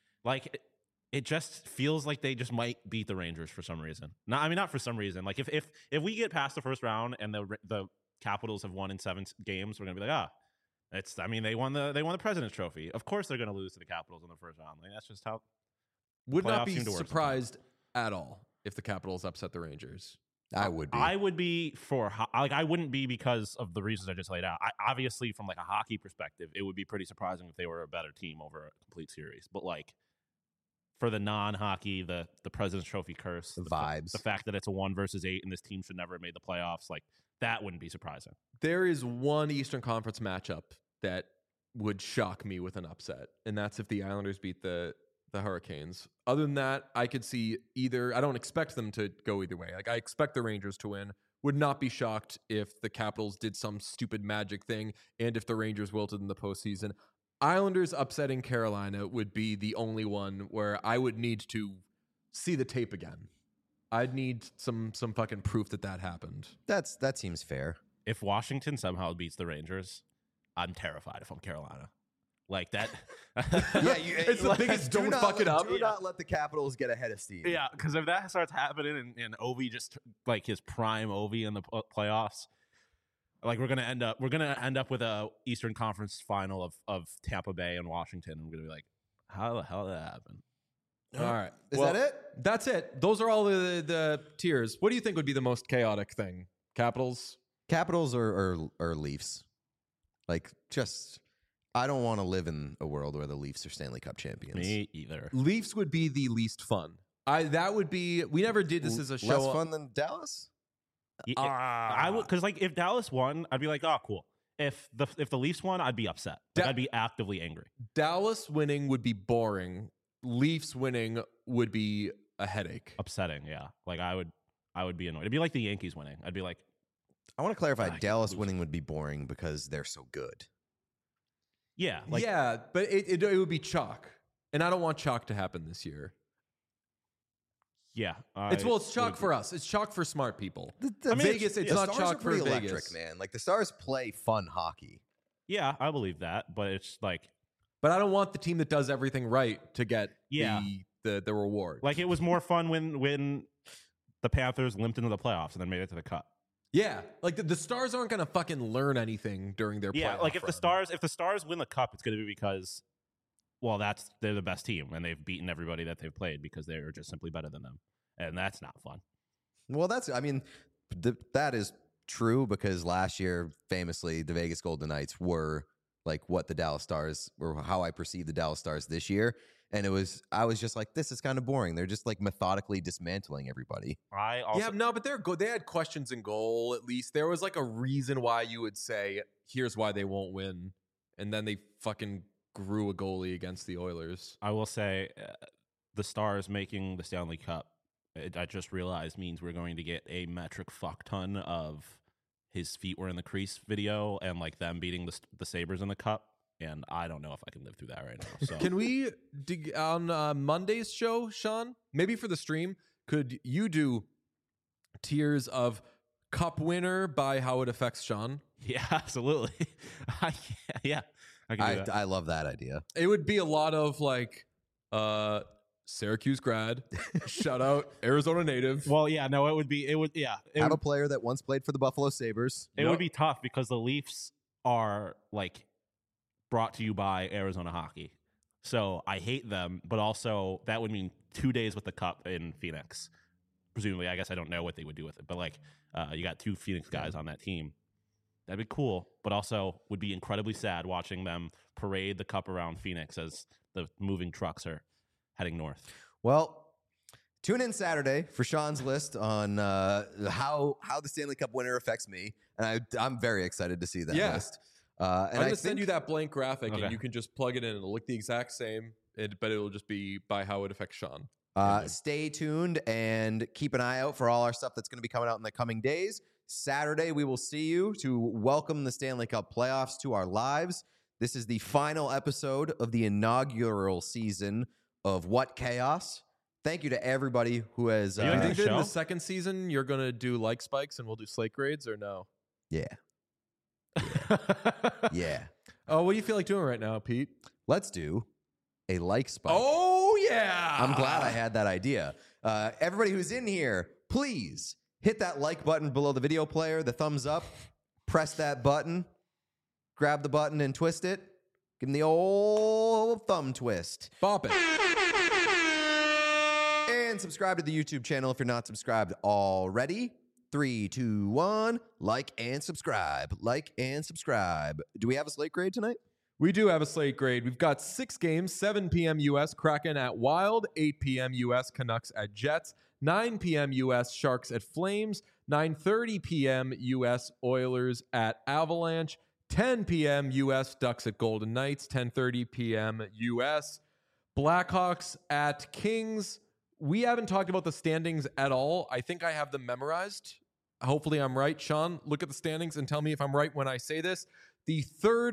it just feels like they just might beat the Rangers for some reason. Not for some reason. Like if we get past the first round and the Capitals have won in 7 games, we're gonna be like, they won the President's Trophy. Of course they're gonna lose to the Capitals in the first round. Like that's just how. Would not playoffs be seem to work surprised at all if the Capitals upset the Rangers. I would be. I would be I wouldn't be because of the reasons I just laid out. Obviously, from like a hockey perspective, it would be pretty surprising if they were a better team over a complete series. But like for the non-hockey, the President's Trophy curse, The vibes. the fact that it's a 1 versus 8 and this team should never have made the playoffs, like that wouldn't be surprising. There is one Eastern Conference matchup that would shock me with an upset, and that's if the Islanders beat the Hurricanes. Other than that, I could see either. I don't expect them to go either way. Like I expect the Rangers to win. Would not be shocked if the Capitals did some stupid magic thing, and if the Rangers wilted in the postseason. Islanders upsetting Carolina would be the only one where I would need to see the tape again. I'd need some fucking proof that happened. That seems fair. If Washington somehow beats the Rangers, I'm terrified if I'm Carolina. Like that. Yeah, It's the biggest don't fuck it up. Do not let the Capitals get ahead of steam. Yeah, because if that starts happening and Ovi just like his prime Ovi in the playoffs, like we're gonna end up with a Eastern Conference final of Tampa Bay and Washington, and we're gonna be like, how the hell did that happen? All right. Is Well, that it? That's it. Those are all the tiers. What do you think would be the most chaotic thing? Capitals? Capitals or Leafs? Like, just I don't want to live in a world where the Leafs are Stanley Cup champions. Me either. Leafs would be the least fun. That would be. We never did this as a show. Less fun than Dallas? I would, because like if Dallas won, I'd be like, oh, cool. if the Leafs won, I'd be upset. Like, I'd be actively angry. Dallas winning would be boring. Leafs winning would be a headache. Upsetting, yeah. Like I would be annoyed. It'd be like the Yankees winning. I'd be like, I want to clarify. I Dallas lose. winning would be boring because they're so good. yeah, like yeah, but it would be chalk. And I don't want chalk to happen this year. yeah. It's chalk for us. It's chalk for smart people. I mean, Vegas, it's the not Stars chalk are for pretty Vegas. electric, man. Like the Stars play fun hockey. Yeah, I believe that, but it's like But I don't want the team that does everything right to get Yeah. the reward. it was more fun when the Panthers limped into the playoffs and then made it to the Cup. Yeah, like the Stars aren't gonna fucking learn anything during their Yeah, playoff like if run. the Stars win the Cup, it's going to be because, well, they're the best team and they've beaten everybody that they've played because they're just simply better than them, and that's not fun. Well, that is true because last year, famously, the Vegas Golden Knights were like what the Dallas Stars or how I perceive the Dallas Stars this year. And I was just like, this is kind of boring. They're just like methodically dismantling everybody. I also Yeah, no, but they're good. They had questions in goal. At least there was like a reason why you would say, "Here's why they won't win," and then they fucking grew a goalie against the Oilers. I will say the Stars making the Stanley Cup, I just realized means we're going to get a metric fuck ton of his feet were in the crease video and like them beating the Sabres in the Cup. And I don't know if I can live through that right now. So Can we on Monday's show, Sean? Maybe for the stream, could you do tiers of Cup winner by how it affects Sean? yeah, absolutely. I can do that. I love that idea. It would be a lot of like Syracuse grad, shout out Arizona native. Well, yeah, no, it would Have a player that once played for the Buffalo Sabres. it would be tough because the Leafs are like brought to you by Arizona Hockey. So I hate them, but also that would mean 2 days with the Cup in Phoenix. Presumably, I guess I don't know what they would do with it, but like you got 2 Phoenix guys on that team. That'd be cool, but also would be incredibly sad watching them parade the Cup around Phoenix as the moving trucks are heading north. Well, tune in Saturday for Sean's list on how the Stanley Cup winner affects me, and I'm very excited to see that Yeah. list. I'm going to send you that blank graphic, Okay. and you can just plug it in. It'll look the exact same, but it'll just be by how it affects Sean. Stay tuned and keep an eye out for all our stuff that's going to be coming out in the coming days. Saturday, we will see you to welcome the Stanley Cup playoffs to our lives. This is the final episode of the inaugural season of What Chaos. Thank you to everybody who has. Are you Do you like think the that in the show? second season you're going to do like spikes and we'll do slate grades or no? Yeah. Yeah. Oh, what do you feel like doing right now, Pete? Let's do a like spike. Oh, yeah. I'm glad I had that idea. Everybody who's in here, please hit that like button below the video player, the thumbs up, press that button, grab the button and twist it. Give them the old thumb twist. Bop it. And subscribe to the YouTube channel if you're not subscribed already. 3, 2, 1. Like and subscribe. Like and subscribe. Do we have a slate grade tonight? We do have a slate grade. We've got 6 games, 7 p.m. U.S. Kraken at Wild, 8 p.m. U.S. Canucks at Jets, 9 p.m. U.S. Sharks at Flames, 9:30 p.m. U.S. Oilers at Avalanche, 10 p.m. U.S. Ducks at Golden Knights, 10:30 p.m. U.S. Blackhawks at Kings. We haven't talked about the standings at all. I think I have them memorized. Hopefully I'm right. Sean, look at the standings and tell me if I'm right when I say this. The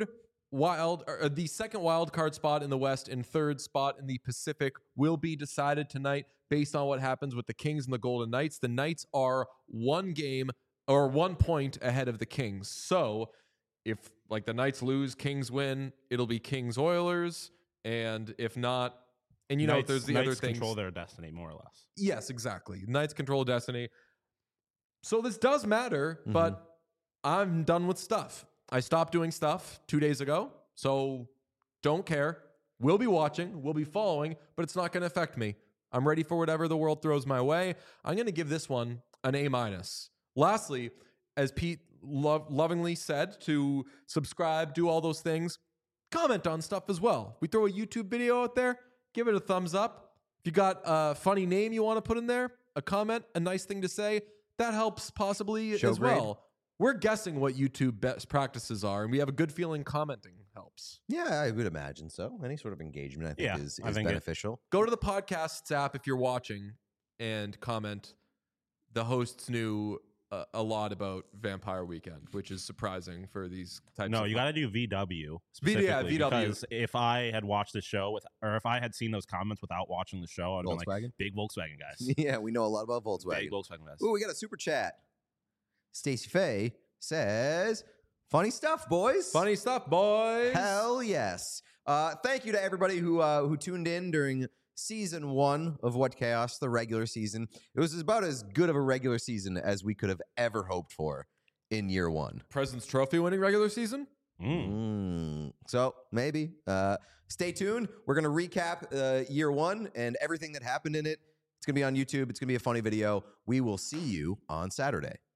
second wild card spot in the West and third spot in the Pacific will be decided tonight based on what happens with the Kings and the Golden Knights. The Knights are 1 point ahead of the Kings. So if like the Knights lose, Kings win, it'll be Kings Oilers. And if not, and you know, Knights- there's the Knights other things. control their destiny more or less. Yes, exactly. Knights control destiny. So this does matter, but I'm done with stuff. I stopped doing stuff 2 days ago, so don't care. We'll be watching, we'll be following, but it's not going to affect me. I'm ready for whatever the world throws my way. I'm going to give this one an A-. Lastly, as Pete lovingly said, to subscribe, do all those things, comment on stuff as well. We throw a YouTube video out there, give it a thumbs up. If you got a funny name you want to put in there, a comment, a nice thing to say, that helps possibly Show as grade. well. we're guessing what YouTube best practices are, and we have a good feeling commenting helps. Yeah, I would imagine so. Any sort of engagement, I think, Yeah, is I think beneficial. Go to the podcasts app if you're watching and comment. The hosts knew a lot about Vampire Weekend, which is surprising for these types No, of you got to do VW. Yeah, specifically, VW. Because if I had watched the show or if I had seen those comments without watching the show, I'd been like, Volkswagen? big Volkswagen guys. Yeah, we know a lot about Big Volkswagen. Volkswagen guys. Ooh, we got a super chat. Stacey Faye says, funny stuff, boys. Funny stuff, boys. Hell yes. Thank you to everybody who tuned in during season 1 of What Chaos, the regular season. It was about as good of a regular season as we could have ever hoped for in year 1. President's Trophy winning regular season? So maybe. Stay tuned. We're going to recap year 1 and everything that happened in it. It's going to be on YouTube. It's going to be a funny video. We will see you on Saturday.